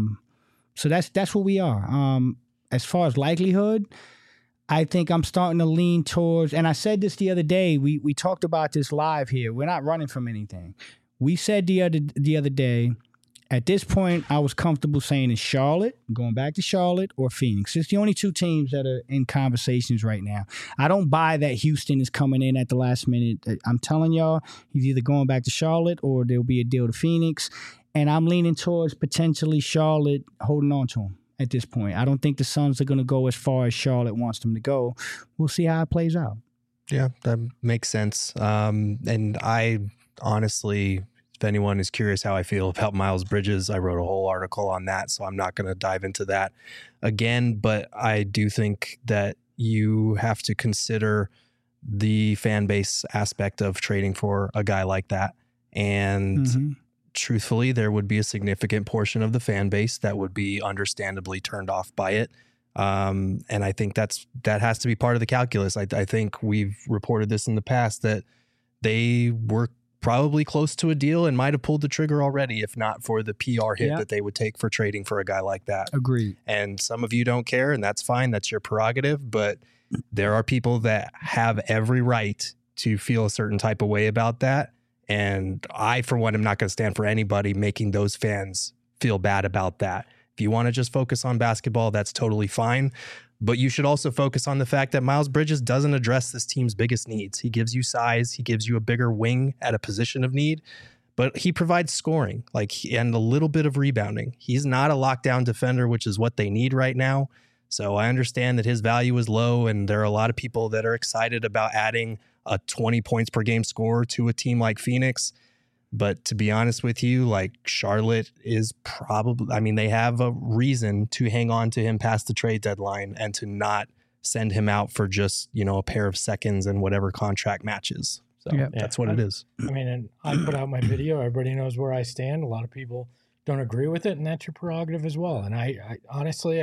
C: So that's where we are. As far as likelihood, I think I'm starting to lean towards. And I said this the other day. We talked about this live here. We're not running from anything. We said the other day. At this point, I was comfortable saying it's Charlotte, going back to Charlotte, or Phoenix. It's the only two teams that are in conversations right now. I don't buy that Houston is coming in at the last minute. I'm telling y'all, he's either going back to Charlotte or there'll be a deal to Phoenix. And I'm leaning towards potentially Charlotte holding on to him at this point. I don't think the Suns are going to go as far as Charlotte wants them to go. We'll see how it plays out.
D: Yeah, that makes sense. And I honestly... If anyone is curious how I feel about Miles Bridges, I wrote a whole article on that, so I'm not going to dive into that again. But I do think that you have to consider the fan base aspect of trading for a guy like that. And truthfully, there would be a significant portion of the fan base that would be understandably turned off by it. And I think that has to be part of the calculus. I think we've reported this in the past that they were probably close to a deal and might have pulled the trigger already, if not for the PR hit that they would take for trading for a guy like that.
C: Agreed.
D: And some of you don't care, and that's fine. That's your prerogative. But there are people that have every right to feel a certain type of way about that. And I, for one, am not going to stand for anybody making those fans feel bad about that. If you want to just focus on basketball, that's totally fine. But you should also focus on the fact that Miles Bridges doesn't address this team's biggest needs. He gives you size. He gives you a bigger wing at a position of need, but he provides scoring and a little bit of rebounding. He's not a lockdown defender, which is what they need right now. So I understand that his value is low, and there are a lot of people that are excited about adding a 20 points per game scorer to a team like Phoenix. But to be honest with you, Charlotte is probably, they have a reason to hang on to him past the trade deadline and to not send him out for just, a pair of seconds and whatever contract matches. So that's what it is.
B: And I put out my video. Everybody knows where I stand. A lot of people don't agree with it, and that's your prerogative as well. And I honestly,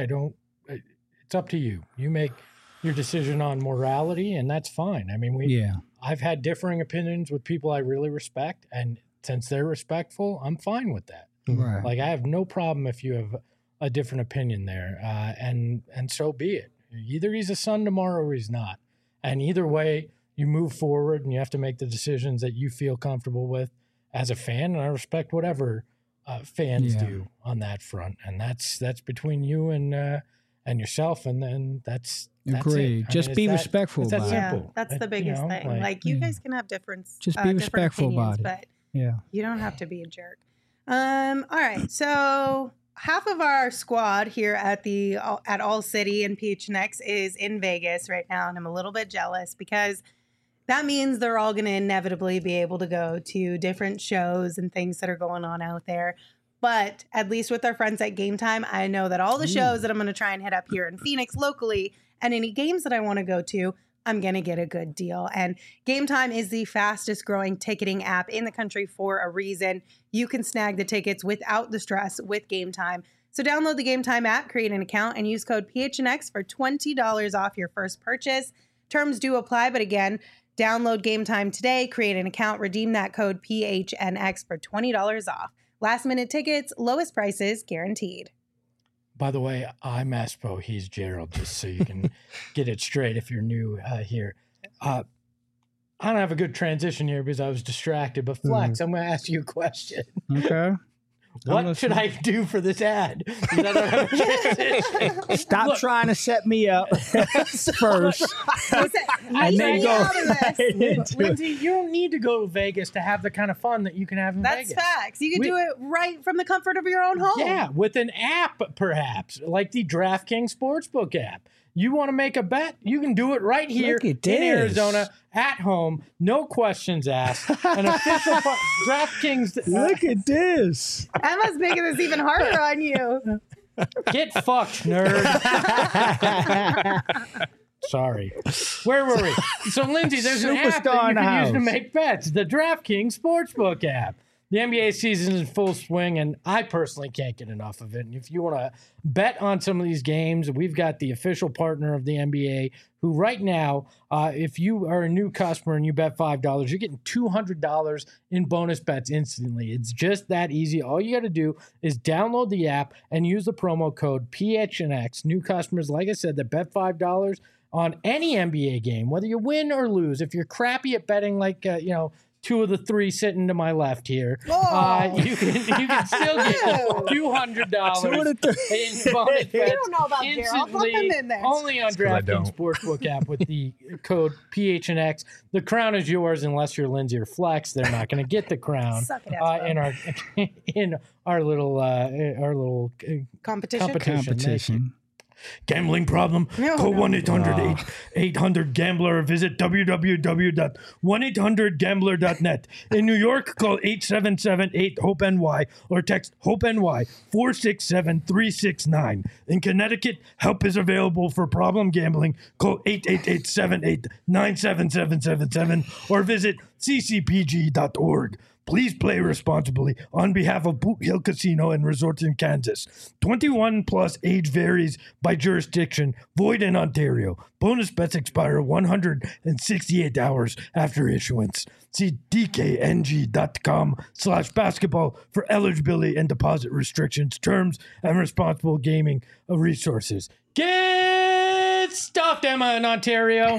B: it's up to you. You make your decision on morality, and that's fine. I've had differing opinions with people I really respect, and since they're respectful, I'm fine with that.
C: Right.
B: I have no problem if you have a different opinion there, and so be it. Either he's a Sun tomorrow or he's not. And either way, you move forward and you have to make the decisions that you feel comfortable with as a fan. And I respect whatever fans do on that front. And that's between you and yourself. And then that's
C: agreed. Just be respectful about it.
A: Yeah, that's the biggest thing. You guys can have difference.
C: Just be respectful about it.
A: But you don't have to be a jerk. All right. So half of our squad here at All City and PHNX is in Vegas right now, and I'm a little bit jealous because that means they're all going to inevitably be able to go to different shows and things that are going on out there. But at least with our friends at Game Time, I know that all the shows that I'm going to try and hit up here in Phoenix locally and any games that I want to go to, I'm going to get a good deal. And Game Time is the fastest growing ticketing app in the country for a reason. You can snag the tickets without the stress with Game Time. So download the Game Time app, create an account, and use code PHNX for $20 off your first purchase. Terms do apply, but again, download Game Time today, create an account, redeem that code PHNX for $20 off. Last minute tickets, lowest prices guaranteed.
B: By the way, I'm Espo. He's Gerald, just so you can get it straight if you're new here. I don't have a good transition here because I was distracted, but Flex, I'm going to ask you a question.
C: Okay.
B: What should I do for this ad? I don't have a transition.
C: Stop trying to set me up first.
A: And then go.
B: Lindsay, you don't need to go to Vegas to have the kind of fun that you can have in Vegas.
A: That's facts. You can do it right from the comfort of your own home.
B: Yeah, with an app, perhaps, like the DraftKings Sportsbook app. You want to make a bet? You can do it right here in Arizona at home. No questions asked. An official DraftKings.
C: Look at this.
A: Emma's making this even harder on you.
B: Get fucked, nerd. Sorry. Where were we? So, Lindsay, there's an app that you can use to make bets. The DraftKings Sportsbook app. The NBA season is in full swing, and I personally can't get enough of it. And if you want to bet on some of these games, we've got the official partner of the NBA, who right now, if you are a new customer and you bet $5, you're getting $200 in bonus bets instantly. It's just that easy. All you got to do is download the app and use the promo code PHNX. New customers, like I said, that bet $5 on any NBA game, whether you win or lose. If you're crappy at betting, like two of the three sitting to my left here, you can still get $200 in bonus bets.
A: You don't know about Gerald. Put them in there.
B: Only on DraftKings Sportsbook app with the code PHNX. The crown is yours unless you're Lindsay or Flex. They're not going to get the crown in our little
A: competition.
B: Gambling problem? Call 1-800-800-GAMBLER or visit www.1800gambler.net. In New York, call 877-8-HOPE-NY or text HOPE-NY 467-369. In Connecticut, help is available for problem gambling. Call 888-78-97777 or visit ccpg.org. Please play responsibly on behalf of Boot Hill Casino and Resorts in Kansas. 21 plus, age varies by jurisdiction. Void in Ontario. Bonus bets expire 168 hours after issuance. See dkng.com/basketball for eligibility and deposit restrictions, terms, and responsible gaming resources. Get stuffed, Emma, in Ontario.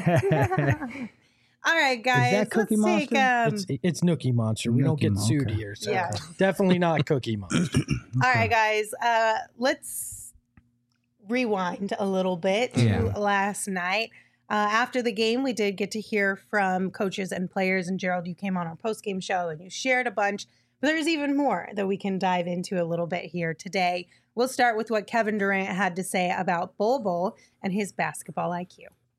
A: All right, guys.
C: Is that Cookie Monster?
B: It's Nookie Monster. We don't get sued here, so definitely not Cookie Monster.
A: All right, guys. Let's rewind a little bit to last night. After the game, we did get to hear from coaches and players. And Gerald, you came on our post-game show and you shared a bunch. But there's even more that we can dive into a little bit here today. We'll start with what Kevin Durant had to say about Bol Bol and his basketball IQ.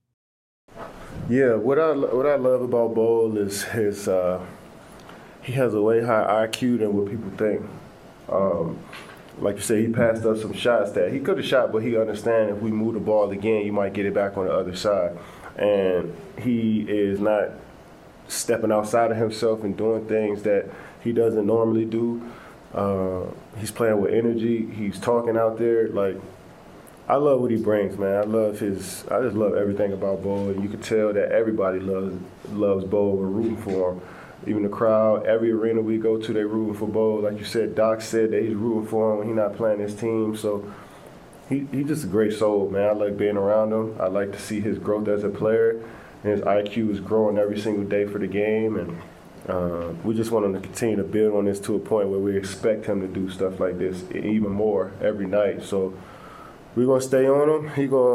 F: Yeah, what I love about Bol is his he has a way higher IQ than what people think. Like you said, he passed up some shots that he could have shot, but he understands if we move the ball again, you might get it back on the other side. And he is not stepping outside of himself and doing things that he doesn't normally do. He's playing with energy. He's talking out there like. I love what he brings, man. I just love everything about Bol. And you can tell that everybody loves Bol. We're rooting for him. Even the crowd, every arena we go to, they're rooting for Bol. Like you said, Doc said that he's rooting for him when he's not playing his team. So he's just a great soul, man. I like being around him. I like to see his growth as a player. And his IQ is growing every single day for the game. And we just want him to continue to build on this to a point where we expect him to do stuff like this even more every night. So we're going to stay on him.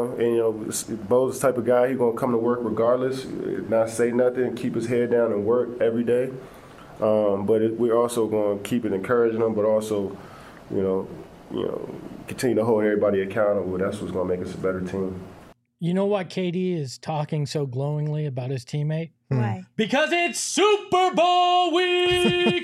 F: Bol's the type of guy, he's going to come to work regardless, not say nothing, keep his head down and work every day. But we're also going to keep it encouraging him, but also, continue to hold everybody accountable. That's what's going to make us a better team.
B: You know why KD is talking so glowingly about his teammate?
A: Why?
B: Because it's Super Bowl week!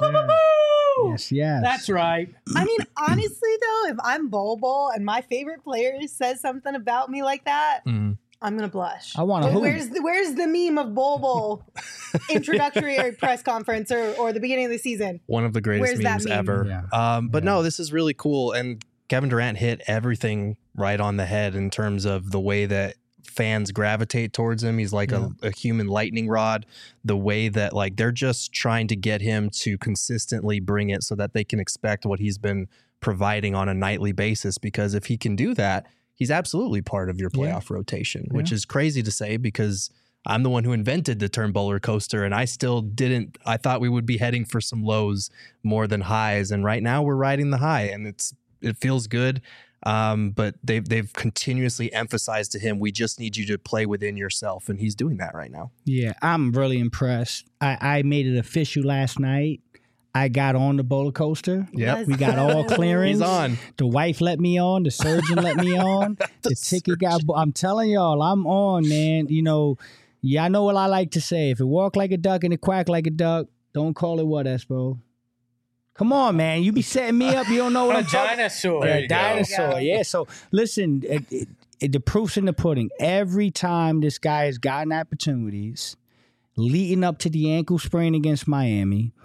C: Yes.
B: That's right.
A: I mean, honestly, though, if I'm Bol Bol and my favorite player says something about me like that, I'm going to blush.
C: I want to
A: Where's the meme of Bol Bol introductory press conference or the beginning of the season?
D: One of the greatest memes ever.
C: Yeah.
D: No, this is really cool. And Kevin Durant hit everything right on the head in terms of the way that fans gravitate towards him. He's like a human lightning rod. The way that they're just trying to get him to consistently bring it so that they can expect what he's been providing on a nightly basis. Because if he can do that, he's absolutely part of your playoff rotation, which is crazy to say because I'm the one who invented the term bowler coaster, and I still didn't. I thought we would be heading for some lows more than highs, and right now we're riding the high, and it feels good. But they've continuously emphasized to him, we just need you to play within yourself, and he's doing that right now.
C: Yeah, I'm really impressed. I made it official last night. I got on the roller coaster.
D: Yep.
C: We got all clearance.
D: He's on.
C: The wife let me on. The surgeon let me on. The ticket got. I'm telling y'all, I'm on, man. Y'all know what I like to say. If it walk like a duck and it quack like a duck, don't call it what, Espo? Come on, man. You be setting me up. You don't know what I'm talking about.
B: Dinosaur.
C: Yeah, dinosaur. Yeah. So listen, the proof's in the pudding. Every time this guy has gotten opportunities, leading up to the ankle sprain against Miami,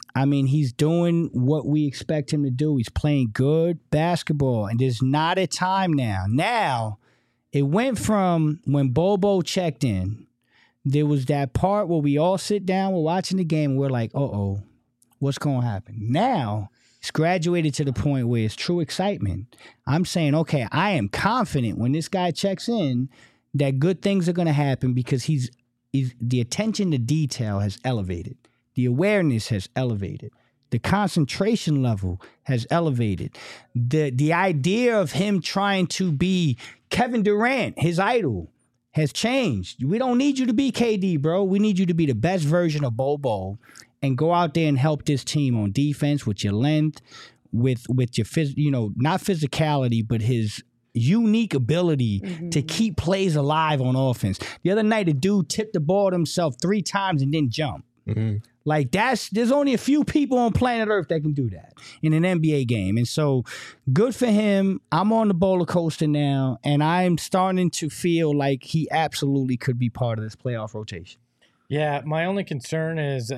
C: I mean, he's doing what we expect him to do. He's playing good basketball, and there's not a time now. Now, it went from when Bobo checked in, there was that part where we all sit down, we're watching the game, and we're like, uh-oh, what's going to happen? Now, it's graduated to the point where it's true excitement. I'm saying, okay, I am confident when this guy checks in that good things are going to happen because he's the attention to detail has elevated. The awareness has elevated. The concentration level has elevated. The idea of him trying to be Kevin Durant, his idol, has changed. We don't need you to be KD, bro. We need you to be the best version of Bobo and go out there and help this team on defense with your length, with your not physicality, but his unique ability to keep plays alive on offense. The other night, the dude tipped the ball to himself 3 times and didn't jump. Like there's only a few people on planet Earth that can do that in an NBA game. And so good for him. I'm on the roller coaster now, and I'm starting to feel like he absolutely could be part of this playoff rotation.
B: Yeah, my only concern is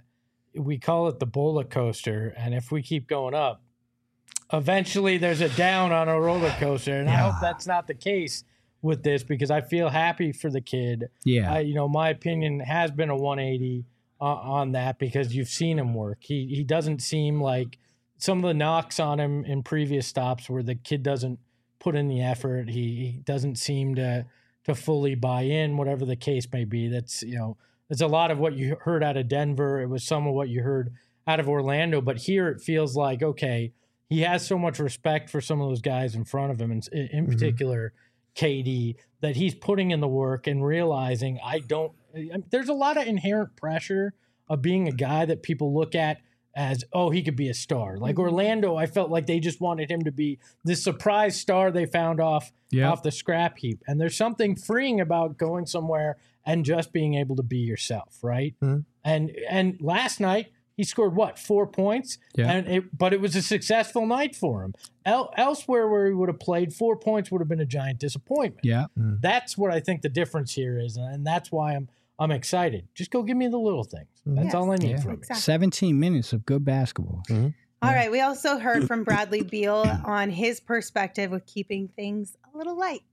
B: we call it the roller coaster, and if we keep going up, eventually there's a down on a roller coaster, and I hope that's not the case with this because I feel happy for the kid.
C: Yeah.
B: My opinion has been a 180 on that because you've seen him work. He doesn't seem like some of the knocks on him in previous stops where the kid doesn't put in the effort. He doesn't seem to fully buy in, whatever the case may be. That's, it's a lot of what you heard out of Denver. It was some of what you heard out of Orlando. But here it feels like, okay, he has so much respect for some of those guys in front of him, and in particular KD, that he's putting in the work and realizing there's a lot of inherent pressure of being a guy that people look at as, oh, he could be a star. Like Orlando, I felt like they just wanted him to be this surprise star they found off the scrap heap. And there's something freeing about going somewhere and just being able to be yourself, right? And last night, he scored, 4 points? Yeah. But it was a successful night for him. Elsewhere where he would have played, 4 points would have been a giant disappointment.
C: Yeah.
B: That's what I think the difference here is, and that's why I'm excited. Just go give me the little things. That's all I need from
C: you. 17 minutes of good basketball.
A: All right. We also heard from Bradley Beal on his perspective of keeping things a little light.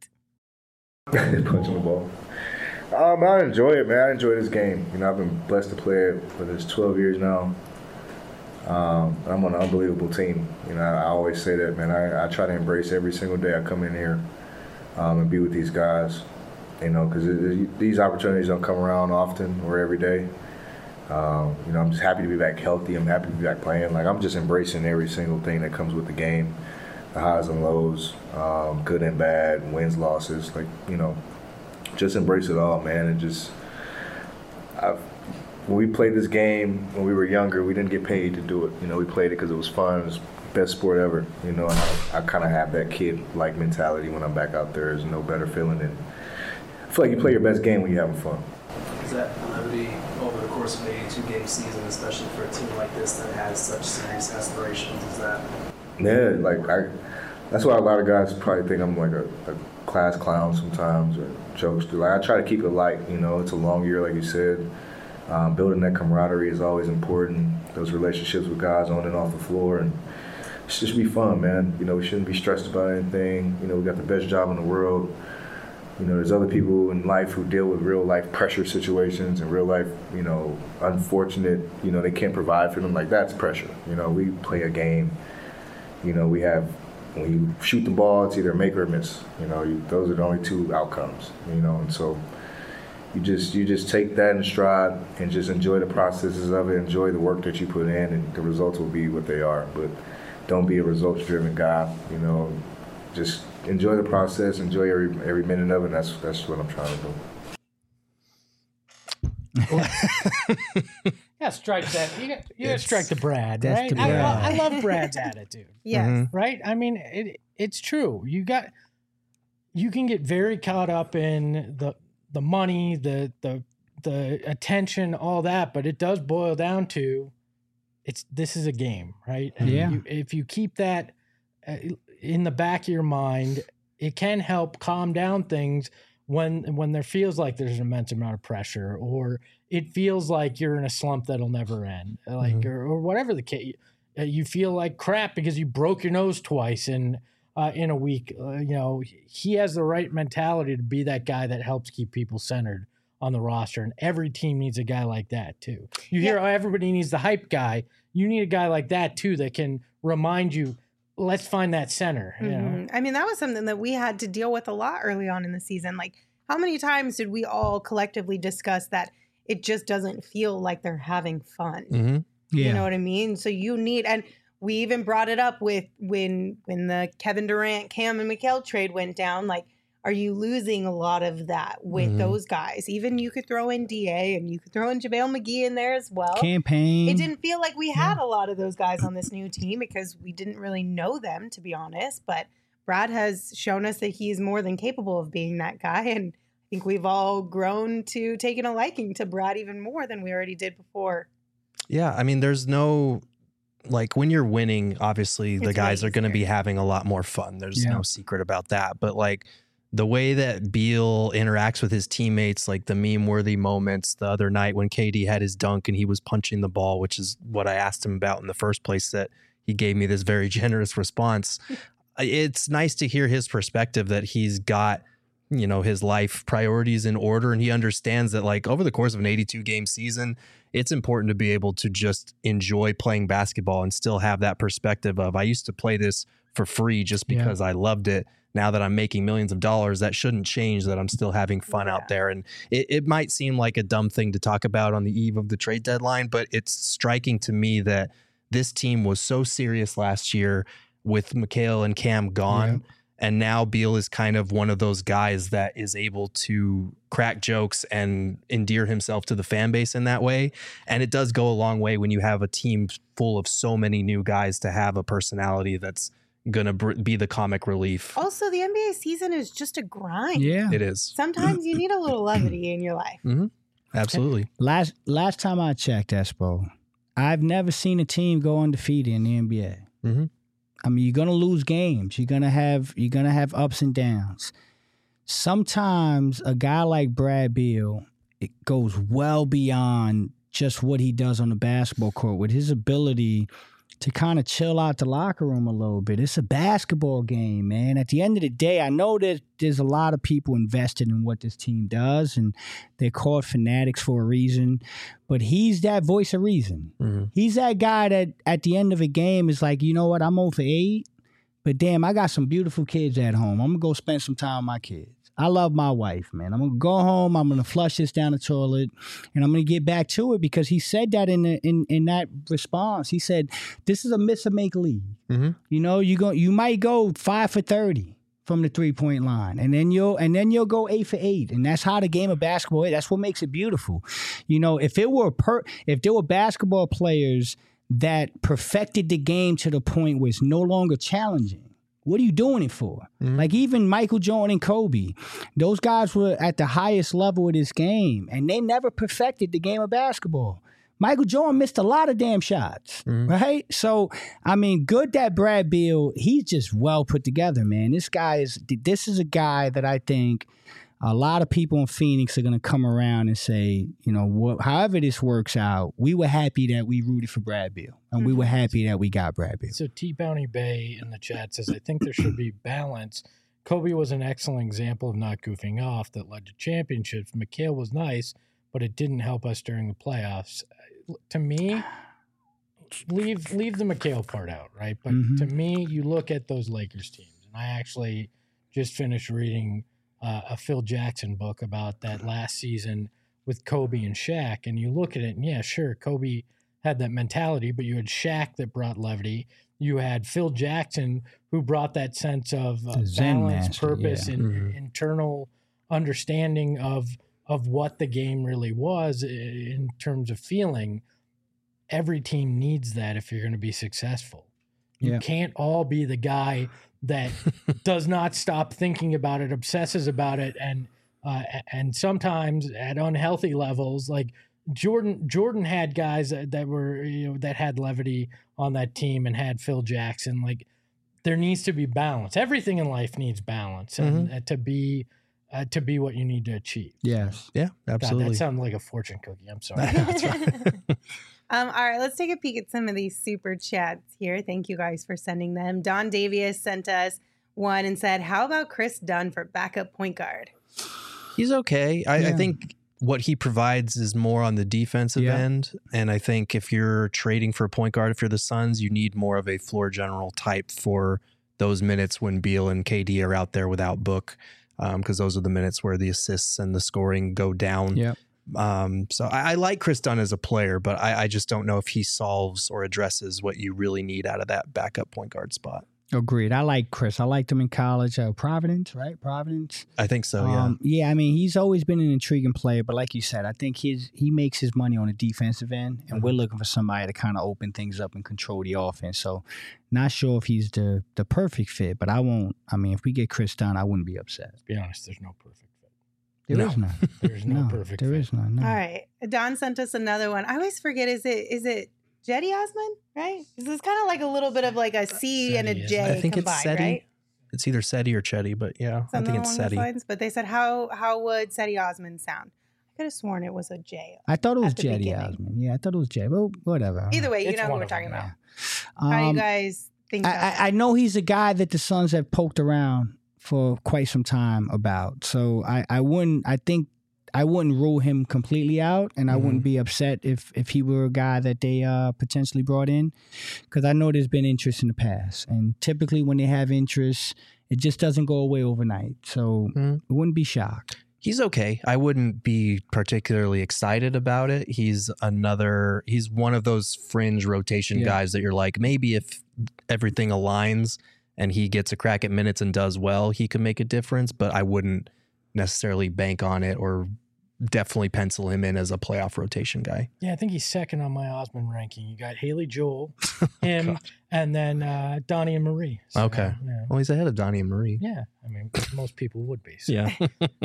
F: Punching the ball. I enjoy it, man. I enjoy this game. I've been blessed to play it for this 12 years now. I'm on an unbelievable team. I always say that, man. I try to embrace every single day I come in here and be with these guys, because these opportunities don't come around often or every day. I'm just happy to be back healthy. I'm happy to be back playing. Like, I'm just embracing every single thing that comes with the game, the highs and lows, good and bad, wins, losses. Just embrace it all, man. And when we played this game when we were younger, we didn't get paid to do it. We played it because it was fun. It was the best sport ever. And I kind of have that kid-like mentality when I'm back out there. There's no better feeling than I feel like you play your best game when you're having fun.
G: Is that levity over the course of an 82-game season, especially for a team like this that has such serious aspirations? Is that?
F: Yeah, that's why a lot of guys probably think I'm like a class clown sometimes or jokester. I try to keep it light. It's a long year, like you said. Building that camaraderie is always important. Those relationships with guys on and off the floor, and it should just be fun, man. We shouldn't be stressed about anything. We got the best job in the world. There's other people in life who deal with real life pressure situations and real life, unfortunate, they can't provide for them. Like, that's pressure. We play a game. We have, when you shoot the ball, it's either make or miss. Those are the only 2 outcomes. And so you just take that in stride and just enjoy the processes of it, enjoy the work that you put in, and the results will be what they are. But don't be a results-driven guy. Just enjoy the process, enjoy every minute of it. And that's what I'm trying to do.
B: Yeah, strike that. You got to strike the Brad, right? I love Brad's attitude.
A: Yes.
B: Right? I mean, it's true. You can get very caught up in the money, the attention, all that, but it does boil down to this is a game, right? And if you keep that in the back of your mind, it can help calm down things when there feels like there's an immense amount of pressure, or it feels like you're in a slump that'll never end, like or whatever the case, you feel like crap because you broke your nose twice in a week. He has the right mentality to be that guy that helps keep people centered on the roster, and every team needs a guy like that too. You hear everybody needs the hype guy. You need a guy like that too that can remind you, let's find that center. You know?
A: I mean, that was something that we had to deal with a lot early on in the season. Like, how many times did we all collectively discuss that it just doesn't feel like they're having fun? You know what I mean? So you need, and we even brought it up with when the Kevin Durant, Cam, and Mikal trade went down. Like, are you losing a lot of that with those guys? Even you could throw in DA and you could throw in JaVale McGee in there as well.
C: Campaign.
A: It didn't feel like we had a lot of those guys on this new team because we didn't really know them, to be honest. But Brad has shown us that he's more than capable of being that guy. And I think we've all grown to taking a liking to Brad even more than we already did before.
D: Yeah, I mean, there's no, like, when you're winning, obviously the guys are going to be having a lot more fun. There's no secret about that. But, like, the way that Beal interacts with his teammates, like the meme-worthy moments the other night when KD had his dunk and he was punching the ball, which is what I asked him about in the first place, that he gave me this very generous response. It's nice to hear his perspective that he's got, his life priorities in order, and he understands that, like, over the course of an 82-game season, it's important to be able to just enjoy playing basketball and still have that perspective of, I used to play this for free just because I loved it. Now that I'm making millions of dollars, that shouldn't change, that I'm still having fun out there. And it might seem like a dumb thing to talk about on the eve of the trade deadline, but it's striking to me that this team was so serious last year with Mikal and Cam gone. And now Beal is kind of one of those guys that is able to crack jokes and endear himself to the fan base in that way. And it does go a long way when you have a team full of so many new guys to have a personality that's going to be the comic relief.
A: Also, the NBA season is just a grind.
C: Yeah,
D: it is.
A: Sometimes you need a little levity in your life.
D: Absolutely.
C: Last time I checked, Espo, I've never seen a team go undefeated in the NBA. I mean, you're gonna lose games. You're gonna have ups and downs. Sometimes a guy like Brad Beal, it goes well beyond just what he does on the basketball court with his ability to kind of chill out the locker room a little bit. It's a basketball game, man. At the end of the day, I know that there's a lot of people invested in what this team does, and they're called fanatics for a reason, but he's that voice of reason. He's that guy that at the end of a game is like, you know what, I'm 0 for 8, but damn, I got some beautiful kids at home. I'm going to go spend some time with my kids. I love my wife, man. I'm going to go home. I'm going to flush this down the toilet, and I'm going to get back to it, because he said that in that response. He said, this is a miss or make league. You might go 5 for 30 from the 3-point line, and then you'll go 8 for 8. And that's how the game of basketball is. That's what makes it beautiful. If there were basketball players that perfected the game to the point where it's no longer challenging, what are you doing it for? Like, even Michael Jordan and Kobe, those guys were at the highest level of this game, and they never perfected the game of basketball. Michael Jordan missed a lot of damn shots, right? So, I mean, good that Brad Beal, he's just well put together, man. This is a guy that I think a lot of people in Phoenix are going to come around and say, however this works out, we were happy that we rooted for Brad Beal, and we were happy that we got Brad Beal.
B: So T-Bounty Bay in the chat says, I think there should be balance. Kobe was an excellent example of not goofing off that led to championships. Mikal was nice, but it didn't help us during the playoffs. To me, leave the Mikal part out, right? But to me, you look at those Lakers teams, and I actually just finished reading a Phil Jackson book about that last season with Kobe and Shaq, and you look at it, and yeah, sure, Kobe had that mentality, but you had Shaq that brought levity. You had Phil Jackson, who brought that sense of balance, purpose, and internal understanding of what the game really was in terms of feeling. Every team needs that if you're going to be successful. You can't all be the guy that does not stop thinking about it, obsesses about it, and sometimes at unhealthy levels. Like Jordan had guys that were that had levity on that team, and had Phil Jackson. Like, there needs to be balance. Everything in life needs balance, and to be to be what you need to achieve.
C: Yes.
D: Yeah, absolutely.
B: God, that sounded like a fortune cookie. I'm sorry.
A: All right, let's take a peek at some of these super chats here. Thank you guys for sending them. Don Davies sent us one and said, how about Chris Dunn for backup point guard?
D: He's okay. I think what he provides is more on the defensive end. And I think if you're trading for a point guard, if you're the Suns, you need more of a floor general type for those minutes when Beal and KD are out there without Book, because those are the minutes where the assists and the scoring go down.
C: Yeah.
D: So I like Chris Dunn as a player, but I just don't know if he solves or addresses what you really need out of that backup point guard spot.
C: Agreed. I like Chris. I liked him in college. Providence, right? Providence.
D: I think so, yeah.
C: Yeah, I mean, he's always been an intriguing player, but like you said, I think he makes his money on the defensive end, and we're looking for somebody to kind of open things up and control the offense. So not sure if he's the perfect fit, but if we get Chris Dunn, I wouldn't be upset.
B: To be honest, there's no perfect fit.
C: There is none.
B: There's no perfect
C: There
B: fit.
C: is none. No.
A: All right. Don sent us another one. I always forget, is it Jetty Osman, right? This is kind of like a little bit of like a C and a
B: Seti,
A: J
D: I think
A: combined,
D: it's Seti.
A: right?
D: It's either Seti or Chetty, but yeah, I think it's Seti.
A: But they said, how would Seti Osman sound? I could have sworn it was a J.
C: I thought it was
A: at the
C: Jetty
A: beginning.
C: Osman. Yeah, I thought it was Jetty. Well, whatever.
A: Either way, you
B: It's
A: know who
B: one
A: we're
B: of
A: talking
B: them,
A: about.
C: yeah.
A: How do you guys think about that?
C: I know he's a guy that the Suns have poked around for quite some time about. So I wouldn't rule him completely out, and I wouldn't be upset if he were a guy that they potentially brought in, because I know there's been interest in the past, and typically when they have interest, it just doesn't go away overnight. So I wouldn't be shocked.
D: He's okay. I wouldn't be particularly excited about it. He's one of those fringe rotation guys that you're like, maybe if everything aligns and he gets a crack at minutes and does well, he could make a difference, but I wouldn't necessarily bank on it or definitely pencil him in as a playoff rotation guy.
B: Yeah, I think he's second on my Osman ranking. You got Haley Joel, him, and then Donnie and Marie. So,
D: okay.
B: Yeah.
D: Well, he's ahead of Donnie and Marie.
B: Yeah, I mean, most people would be. So.
D: Yeah.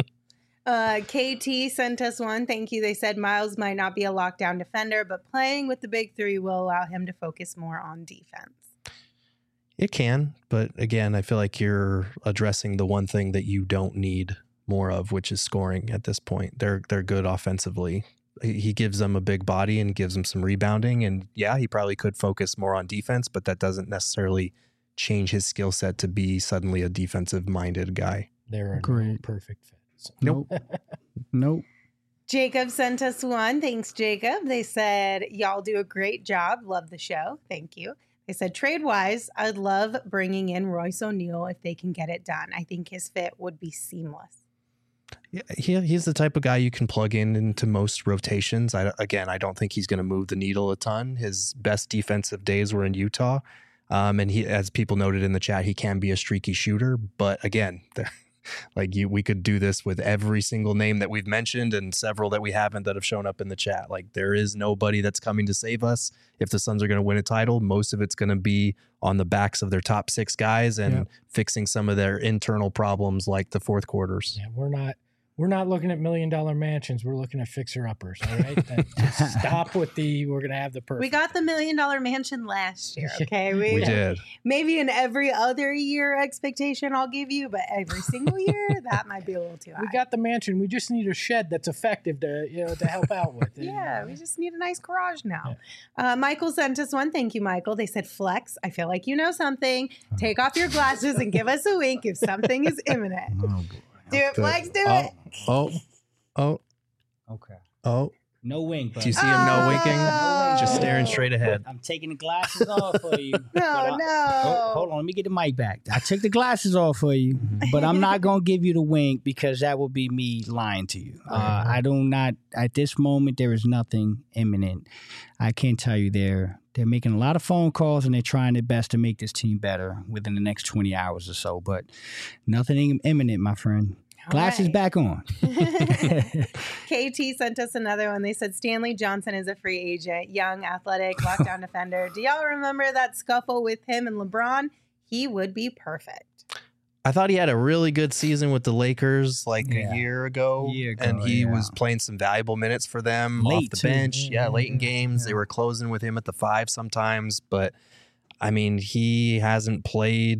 A: KT sent us one. Thank you. They said Miles might not be a lockdown defender, but playing with the big three will allow him to focus more on defense.
D: It can, but again, I feel like you're addressing the one thing that you don't need more of, which is scoring at this point. They're good offensively. He gives them a big body and gives them some rebounding, and yeah, he probably could focus more on defense, but that doesn't necessarily change his skill set to be suddenly a defensive-minded guy.
B: They're no perfect fits.
C: Nope. Nope.
A: Jacob sent us one. Thanks, Jacob. They said, y'all do a great job. Love the show. Thank you. They said, trade-wise, I'd love bringing in Royce O'Neal if they can get it done. I think his fit would be seamless.
D: Yeah, he's the type of guy you can plug into most rotations. I don't think he's going to move the needle a ton. His best defensive days were in Utah. And he, as people noted in the chat, he can be a streaky shooter. But again, we could do this with every single name that we've mentioned and several that we haven't that have shown up in the chat. Like, there is nobody that's coming to save us. If the Suns are going to win a title, most of it's going to be on the backs of their top six guys and fixing some of their internal problems like the fourth quarters.
B: Yeah, we're not looking at $1 million mansions. We're looking at fixer-uppers, all right? Just stop with we're going to have the perfect.
A: We got the $1 million mansion last year, okay?
D: We did.
A: Maybe in every other year expectation I'll give you, but every single year, that might be a little too high.
B: We got the mansion. We just need a shed that's effective to help out with.
A: Yeah, we just need a nice garage now. Yeah. Michael sent us one. Thank you, Michael. They said, Flex, I feel like you know something. Take off your glasses and give us a wink if something is imminent. Oh, boy. Do it, Flex, do it.
C: Okay.
D: No
C: wink.
D: Do you see him no winking? Just staring straight ahead.
C: I'm taking the glasses off for you.
A: No.
C: Hold on, let me get the mic back. I took the glasses off for you, but I'm not going to give you the wink because that would be me lying to you. At this moment, there is nothing imminent. I can tell you they're making a lot of phone calls and they're trying their best to make this team better within the next 20 hours or so, but nothing imminent, my friend. Glasses back on.
A: KT sent us another one. They said Stanley Johnson is a free agent, young, athletic, lockdown defender. Do y'all remember that scuffle with him and LeBron? He would be perfect.
D: I thought he had a really good season with the Lakers a year ago, and he was playing some valuable minutes for them
C: late
D: off the bench. Late in games. They were closing with him at the 5 sometimes, but I mean, he hasn't played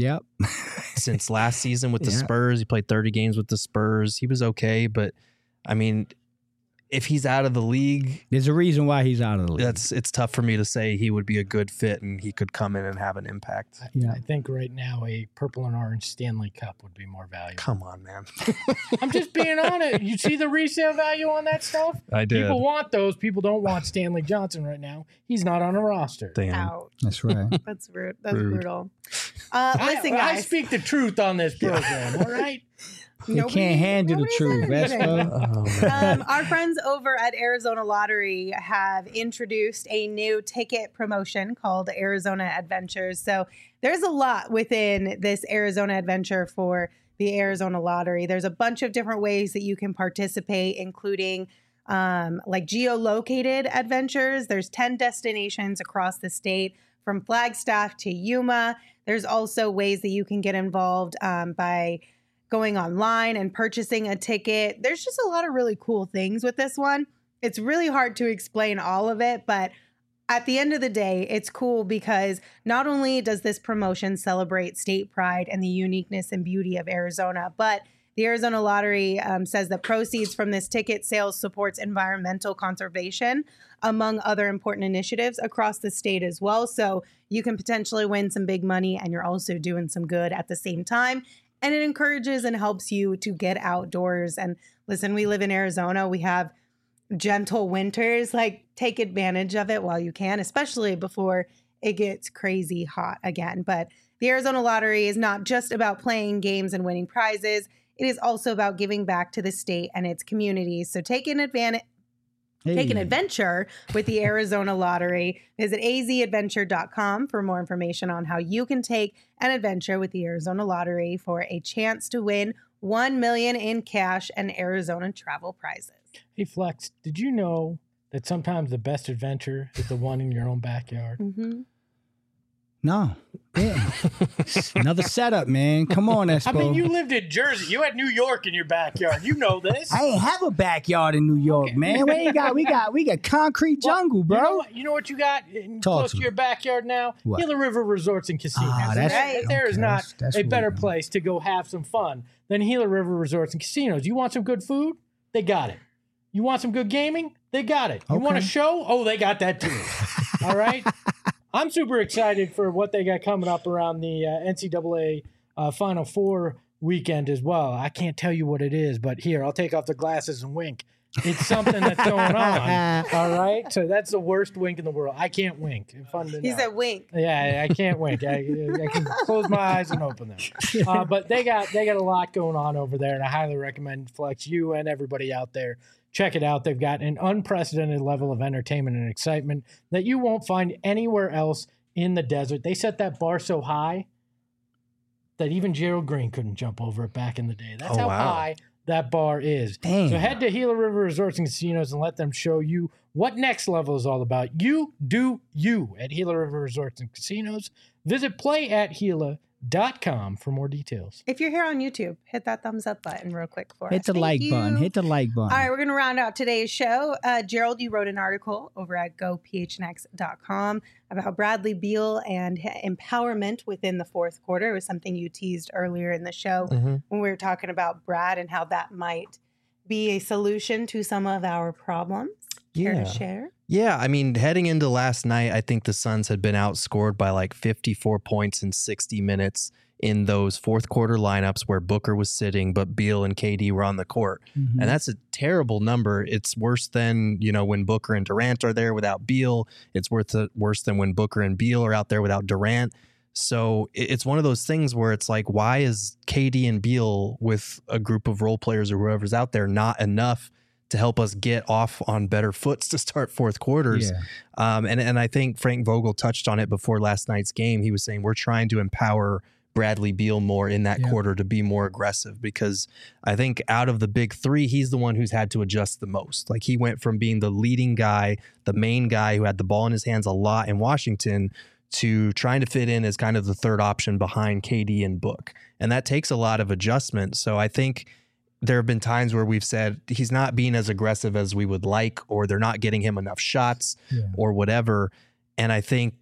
C: Yep.
D: Since last season with the Spurs. He played 30 games with the Spurs. He was okay, but I mean, if he's out of the league,
C: there's a reason why he's out of the league.
D: It's tough for me to say he would be a good fit and he could come in and have an impact.
B: I think right now a purple and orange Stanley Cup would be more valuable.
D: Come on, man.
B: I'm just being honest. You see the resale value on that stuff?
D: I did.
B: People want those. People don't want Stanley Johnson right now. He's not on a roster.
D: Damn.
A: Ouch.
C: That's right.
A: That's rude. That's brutal. Listen,
B: I
A: guys.
B: speak the truth on this program, all right?
C: You can't handle the truth, Vespa.
A: Our friends over at Arizona Lottery have introduced a new ticket promotion called Arizona Adventures. So there's a lot within this Arizona Adventure for the Arizona Lottery. There's a bunch of different ways that you can participate, including like geolocated adventures. There's 10 destinations across the state from Flagstaff to Yuma. There's also ways that you can get involved by going online and purchasing a ticket. There's just a lot of really cool things with this one. It's really hard to explain all of it, but at the end of the day, it's cool because not only does this promotion celebrate state pride and the uniqueness and beauty of Arizona, but the Arizona Lottery says that proceeds from this ticket sales supports environmental conservation, among other important initiatives across the state as well. So you can potentially win some big money and you're also doing some good at the same time. And it encourages and helps you to get outdoors. And listen, we live in Arizona. We have gentle winters. Like, take advantage of it while you can, especially before it gets crazy hot again. But the Arizona Lottery is not just about playing games and winning prizes. It is also about giving back to the state and its communities. So take an adventure with the Arizona Lottery. Visit azadventure.com for more information on how you can take an adventure with the Arizona Lottery for a chance to win $1 million in cash and Arizona travel prizes.
B: Hey, Flex, did you know that sometimes the best adventure is the one in your own backyard?
A: Mm-hmm.
C: No. Yeah. Another setup, man. Come on, Espo.
B: I mean, you lived in Jersey. You had New York in your backyard. You know this.
C: I ain't have a backyard in New York, man. We got concrete jungle, bro.
B: You know what you got close to your backyard now?
C: What?
B: Gila River Resorts and Casinos.
C: That's
A: right.
B: There is not a better
C: weird.
B: place to go have some fun than Gila River Resorts and Casinos. You want some good food? They got it. You want some good gaming? They got it. You want a show? Oh, they got that too. All right? I'm super excited for what they got coming up around the NCAA Final Four weekend as well. I can't tell you what it is, but here, I'll take off the glasses and wink. It's something that's going on. All right? So that's the worst wink in the world. I can't wink.
A: He said wink.
B: Yeah, I can't wink. I can close my eyes and open them. But they got a lot going on over there, and I highly recommend Flex, you and everybody out there. Check it out. They've got an unprecedented level of entertainment and excitement that you won't find anywhere else in the desert. They set that bar so high that even Gerald Green couldn't jump over it back in the day. That's how high that bar is.
C: Damn.
B: So head to Gila River Resorts and Casinos and let them show you what next level is all about. You do you at Gila River Resorts and Casinos. Visit playathila.com for more details.
A: If you're here on YouTube, hit that thumbs up button real quick for us.
C: Hit the like button. Hit the like button.
A: All right, we're going to round out today's show. Gerald, you wrote an article over at gophnx.com about Bradley Beal and empowerment within the fourth quarter. It was something you teased earlier in the show when we were talking about Brad and how that might be a solution to some of our problems. Care to share?
D: Yeah, I mean, heading into last night, I think the Suns had been outscored by like 54 points in 60 minutes in those fourth quarter lineups where Booker was sitting, but Beal and KD were on the court. And that's a terrible number. It's worse than, when Booker and Durant are there without Beal. It's worse than when Booker and Beal are out there without Durant. So it's one of those things where it's like, why is KD and Beal with a group of role players or whoever's out there not enough to help us get off on better foots to start fourth quarters? And I think Frank Vogel touched on it before last night's game. He was saying we're trying to empower Bradley Beal more in that quarter to be more aggressive, because I think out of the big three, he's the one who's had to adjust the most. Like, he went from being the leading guy, the main guy who had the ball in his hands a lot in Washington, to trying to fit in as kind of the third option behind KD and Book. And that takes a lot of adjustment. So I think there have been times where we've said he's not being as aggressive as we would like, or they're not getting him enough shots or whatever. And I think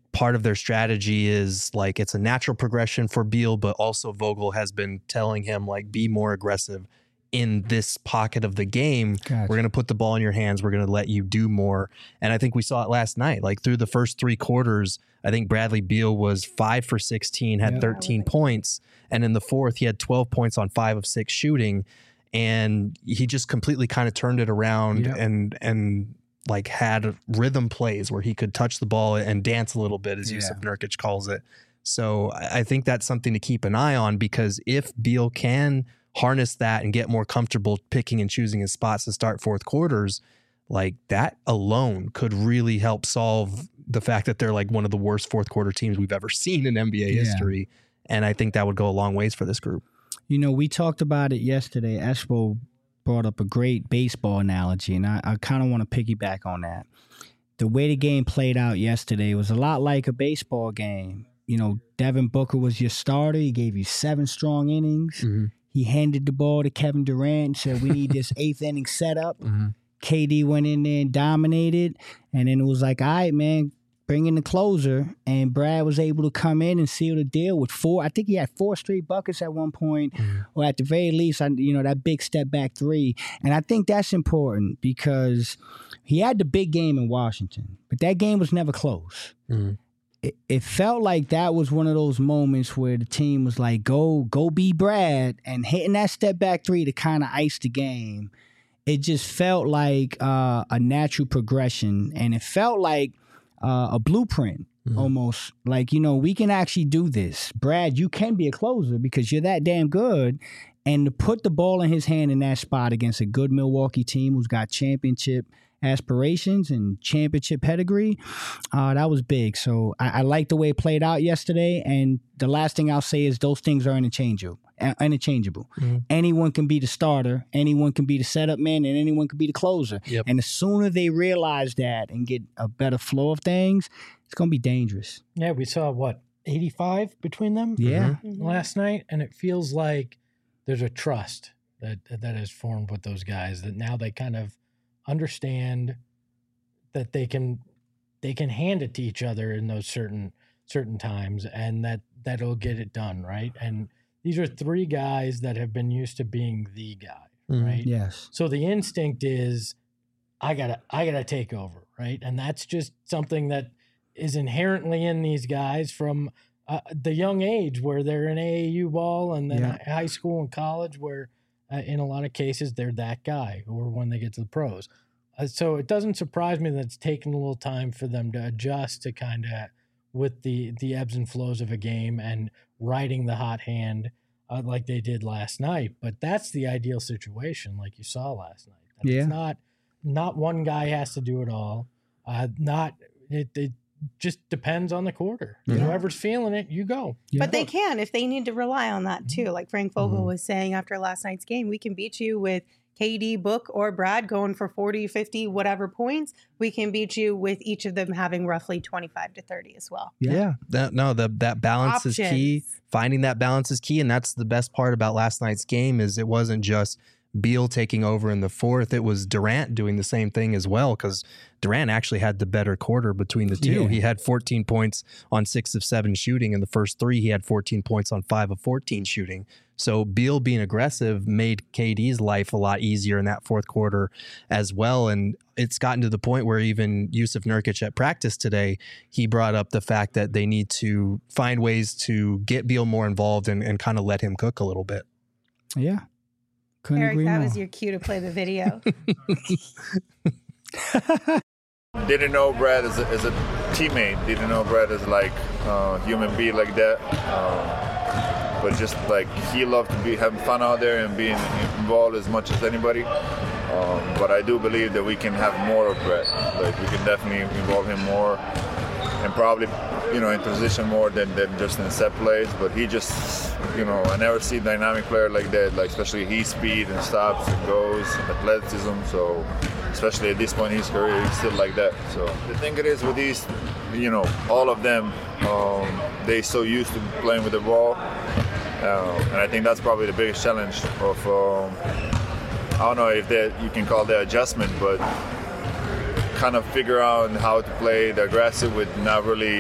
D: part of their strategy is like it's a natural progression for Beal, but also Vogel has been telling him like be more aggressive in this pocket of the game. Gotcha. We're going to put the ball in your hands. We're going to let you do more. And I think we saw it last night. Like through the first 3 quarters, I think Bradley Beal was 5 for 16, had 13 points. And in the fourth, he had 12 points on 5 of 6 shooting. And he just completely kind of turned it around and like had rhythm plays where he could touch the ball and dance a little bit, as Yusuf Nurkic calls it. So I think that's something to keep an eye on, because if Beal can harness that and get more comfortable picking and choosing his spots to start fourth quarters, like that alone could really help solve the fact that they're like one of the worst fourth quarter teams we've ever seen in NBA history. And I think that would go a long ways for this group.
C: You know, we talked about it yesterday. Espo brought up a great baseball analogy, and I kind of want to piggyback on that. The way the game played out yesterday was a lot like a baseball game. You know, Devin Booker was your starter. He gave you 7 strong innings. Mm-hmm. He handed the ball to Kevin Durant and said, we need this 8th inning setup. Mm-hmm. KD went in there and dominated. And then it was like, all right, man, bring in the closer. And Brad was able to come in and seal the deal with 4. I think he had 4 straight buckets at one point, or at the very least, that big step back 3. And I think that's important because he had the big game in Washington, but that game was never close. Mm-hmm. It felt like that was one of those moments where the team was like, go be Brad, and hitting that step back 3 to kind of ice the game. It just felt like a natural progression, and it felt like a blueprint almost. Like, we can actually do this. Brad, you can be a closer because you're that damn good. And to put the ball in his hand in that spot against a good Milwaukee team who's got championship aspirations and championship pedigree, that was big. So I like the way it played out yesterday. And the last thing I'll say is those things are interchangeable. Mm-hmm. Anyone can be the starter, anyone can be the setup man, and anyone can be the closer. Yep. And the sooner they realize that and get a better flow of things, it's going to be dangerous.
B: Yeah, we saw 85 between them last night, and it feels like there's a trust that has formed with those guys, that now they kind of understand that they can hand it to each other in those certain times, and that'll get it done, right? And these are 3 guys that have been used to being the guy, right?
C: Yes.
B: So the instinct is, I gotta take over, right? And that's just something that is inherently in these guys from the young age, where they're in AAU ball and then high school and college, where in a lot of cases they're that guy, or when they get to the pros. So it doesn't surprise me that it's taken a little time for them to adjust to kind of with the ebbs and flows of a game and riding the hot hand like they did last night. But that's the ideal situation, like you saw last night. It's not one guy has to do it all. It just depends on the quarter. Whoever's feeling it, you go.
A: But they can, if they need to rely on that too. Like Frank Vogel was saying after last night's game, we can beat you with KD, Book, or Brad going for 40, 50, whatever points. We can beat you with each of them having roughly 25 to 30 as well.
D: Yeah. That balance is key. Finding that balance is key. And that's the best part about last night's game, is it wasn't just Beal taking over in the fourth. It was Durant doing the same thing as well, because Durant actually had the better quarter between the two. He had 14 points on 6 of 7 shooting. In the first 3, he had 14 points on 5 of 14 shooting. So Beal being aggressive made KD's life a lot easier in that fourth quarter as well. And it's gotten to the point where even Yusuf Nurkic at practice today, he brought up the fact that they need to find ways to get Beal more involved and kind of let him cook a little bit.
C: Yeah. Couldn't
A: Eric,
C: agree
A: that
C: more.
A: was your cue to play the video.
H: Didn't know Brad as a teammate. Didn't know Brad as like a human being like that. But just like he loved to be having fun out there and being involved as much as anybody. But I do believe that we can have more of Brad. Like we can definitely involve him more, and probably in position more than just in set plays. But he just I never see a dynamic player like that. Like especially his speed and stops and goes, athleticism. So especially at this point in his career, he's still like that. So the thing it is with these, all of them, they so used to playing with the ball. And I think that's probably the biggest challenge of, I don't know if you can call that adjustment, but kind of figure out how to play the aggressive with not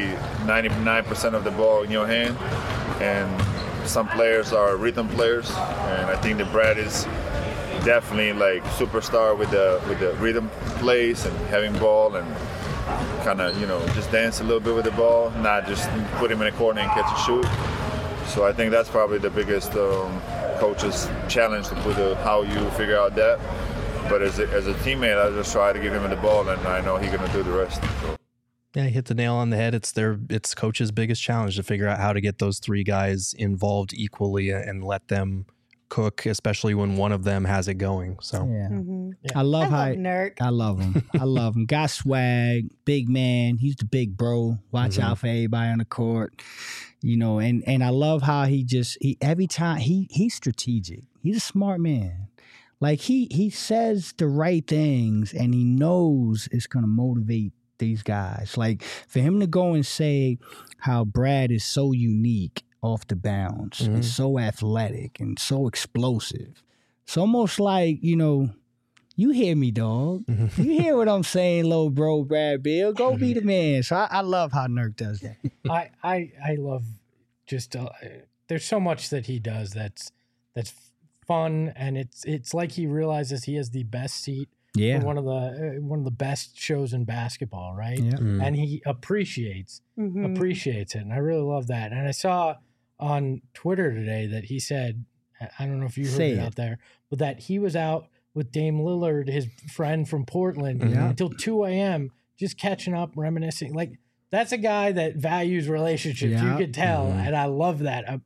H: 99% of the ball in your hand, and some players are rhythm players, and I think that Brad is definitely like superstar with the rhythm plays and having ball and kind of just dance a little bit with the ball, not just put him in a corner and catch and shoot. So I think that's probably the biggest coach's challenge to put how you figure out that. But as a teammate, I just try to give him the ball, and I know he's going to do the rest. So.
D: Yeah, he hit the nail on the head. It's coach's biggest challenge to figure out how to get those three guys involved equally and let them cook, especially when one of them has it going. So
C: yeah. I love
A: Nurk.
C: I love him. I love him. Got swag, big man. He's the big bro. Watch out for everybody on the court. And I love how he every time he's strategic. He's a smart man. Like he says the right things and he knows it's gonna motivate these guys. Like for him to go and say how Brad is so unique off the bounce and so athletic and so explosive. It's almost like, you hear me, dog. You hear what I'm saying, little bro, Brad Beal. Go be the man. So I love how Nurk does that.
B: I love just there's so much that he does that's fun, and it's like he realizes he has the best seat for one of the best shows in basketball, right? Yeah. And he appreciates it, and I really love that. And I saw on Twitter today that he said, I don't know if you heard it out there, but that he was out with Dame Lillard, his friend from Portland, until 2 a.m. just catching up, reminiscing. Like that's a guy that values relationships. Yeah. You could tell, and I love that.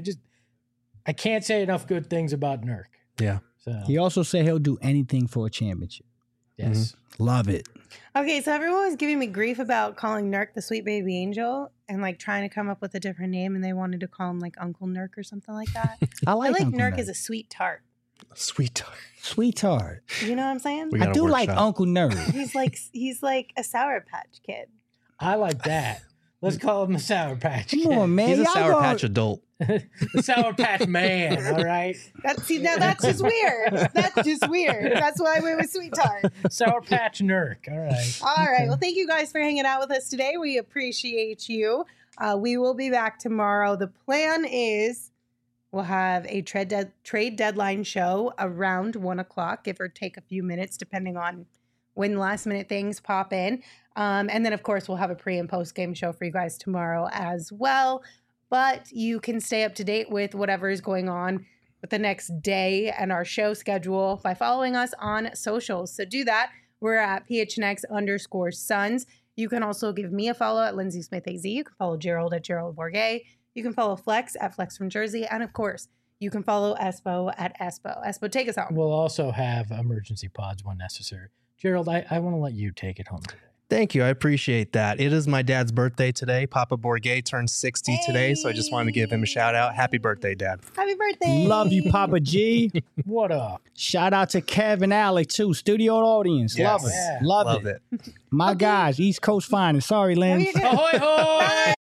B: I can't say enough good things about Nurk.
D: Yeah.
C: So he also said he'll do anything for a championship.
B: Yes.
C: Love it.
A: Okay, so everyone was giving me grief about calling Nurk the sweet baby angel and like trying to come up with a different name, and they wanted to call him like Uncle Nurk or something like that. I like Nurk as a sweet tart.
D: Sweet tart.
C: Sweet tart.
A: You know what I'm saying?
C: I do like Uncle Nurk.
A: He's like a Sour Patch Kid.
B: I like that. Let's call him a Sour Patch Kid.
C: Come on, man.
D: He's a Sour Patch adult.
B: The Sour Patch Man, all right?
A: That's just weird. That's just weird. That's why I went with Sweet Tart.
B: Sour Patch Nurk, all right.
A: All right. Well, thank you guys for hanging out with us today. We appreciate you. We will be back tomorrow. The plan is we'll have a trade deadline show around 1 o'clock, give or take a few minutes, depending on when last minute things pop in. And then, of course, we'll have a pre and post game show for you guys tomorrow as well. But you can stay up to date with whatever is going on with the next day and our show schedule by following us on socials. So do that. We're at PHNX_Suns. You can also give me a follow at Lindsay Smith AZ. You can follow Gerald at Gerald Bourget. You can follow Flex at Flex from Jersey. And of course, you can follow Espo at Espo. Espo, take us home.
B: We'll also have emergency pods when necessary. Gerald, I want to let you take it home today.
D: Thank you. I appreciate that. It is my dad's birthday today. Papa Bourget turned 60 today, so I just wanted to give him a shout out. Happy birthday, Dad.
A: Happy birthday.
C: Love you, Papa G.
B: What up?
C: Shout out to Kevin Alley, too. Studio audience.
D: Yes.
C: Love it.
D: Yeah.
C: Love it. My guys, East Coast finest. Sorry, Lynn.
B: Ahoy, hoy!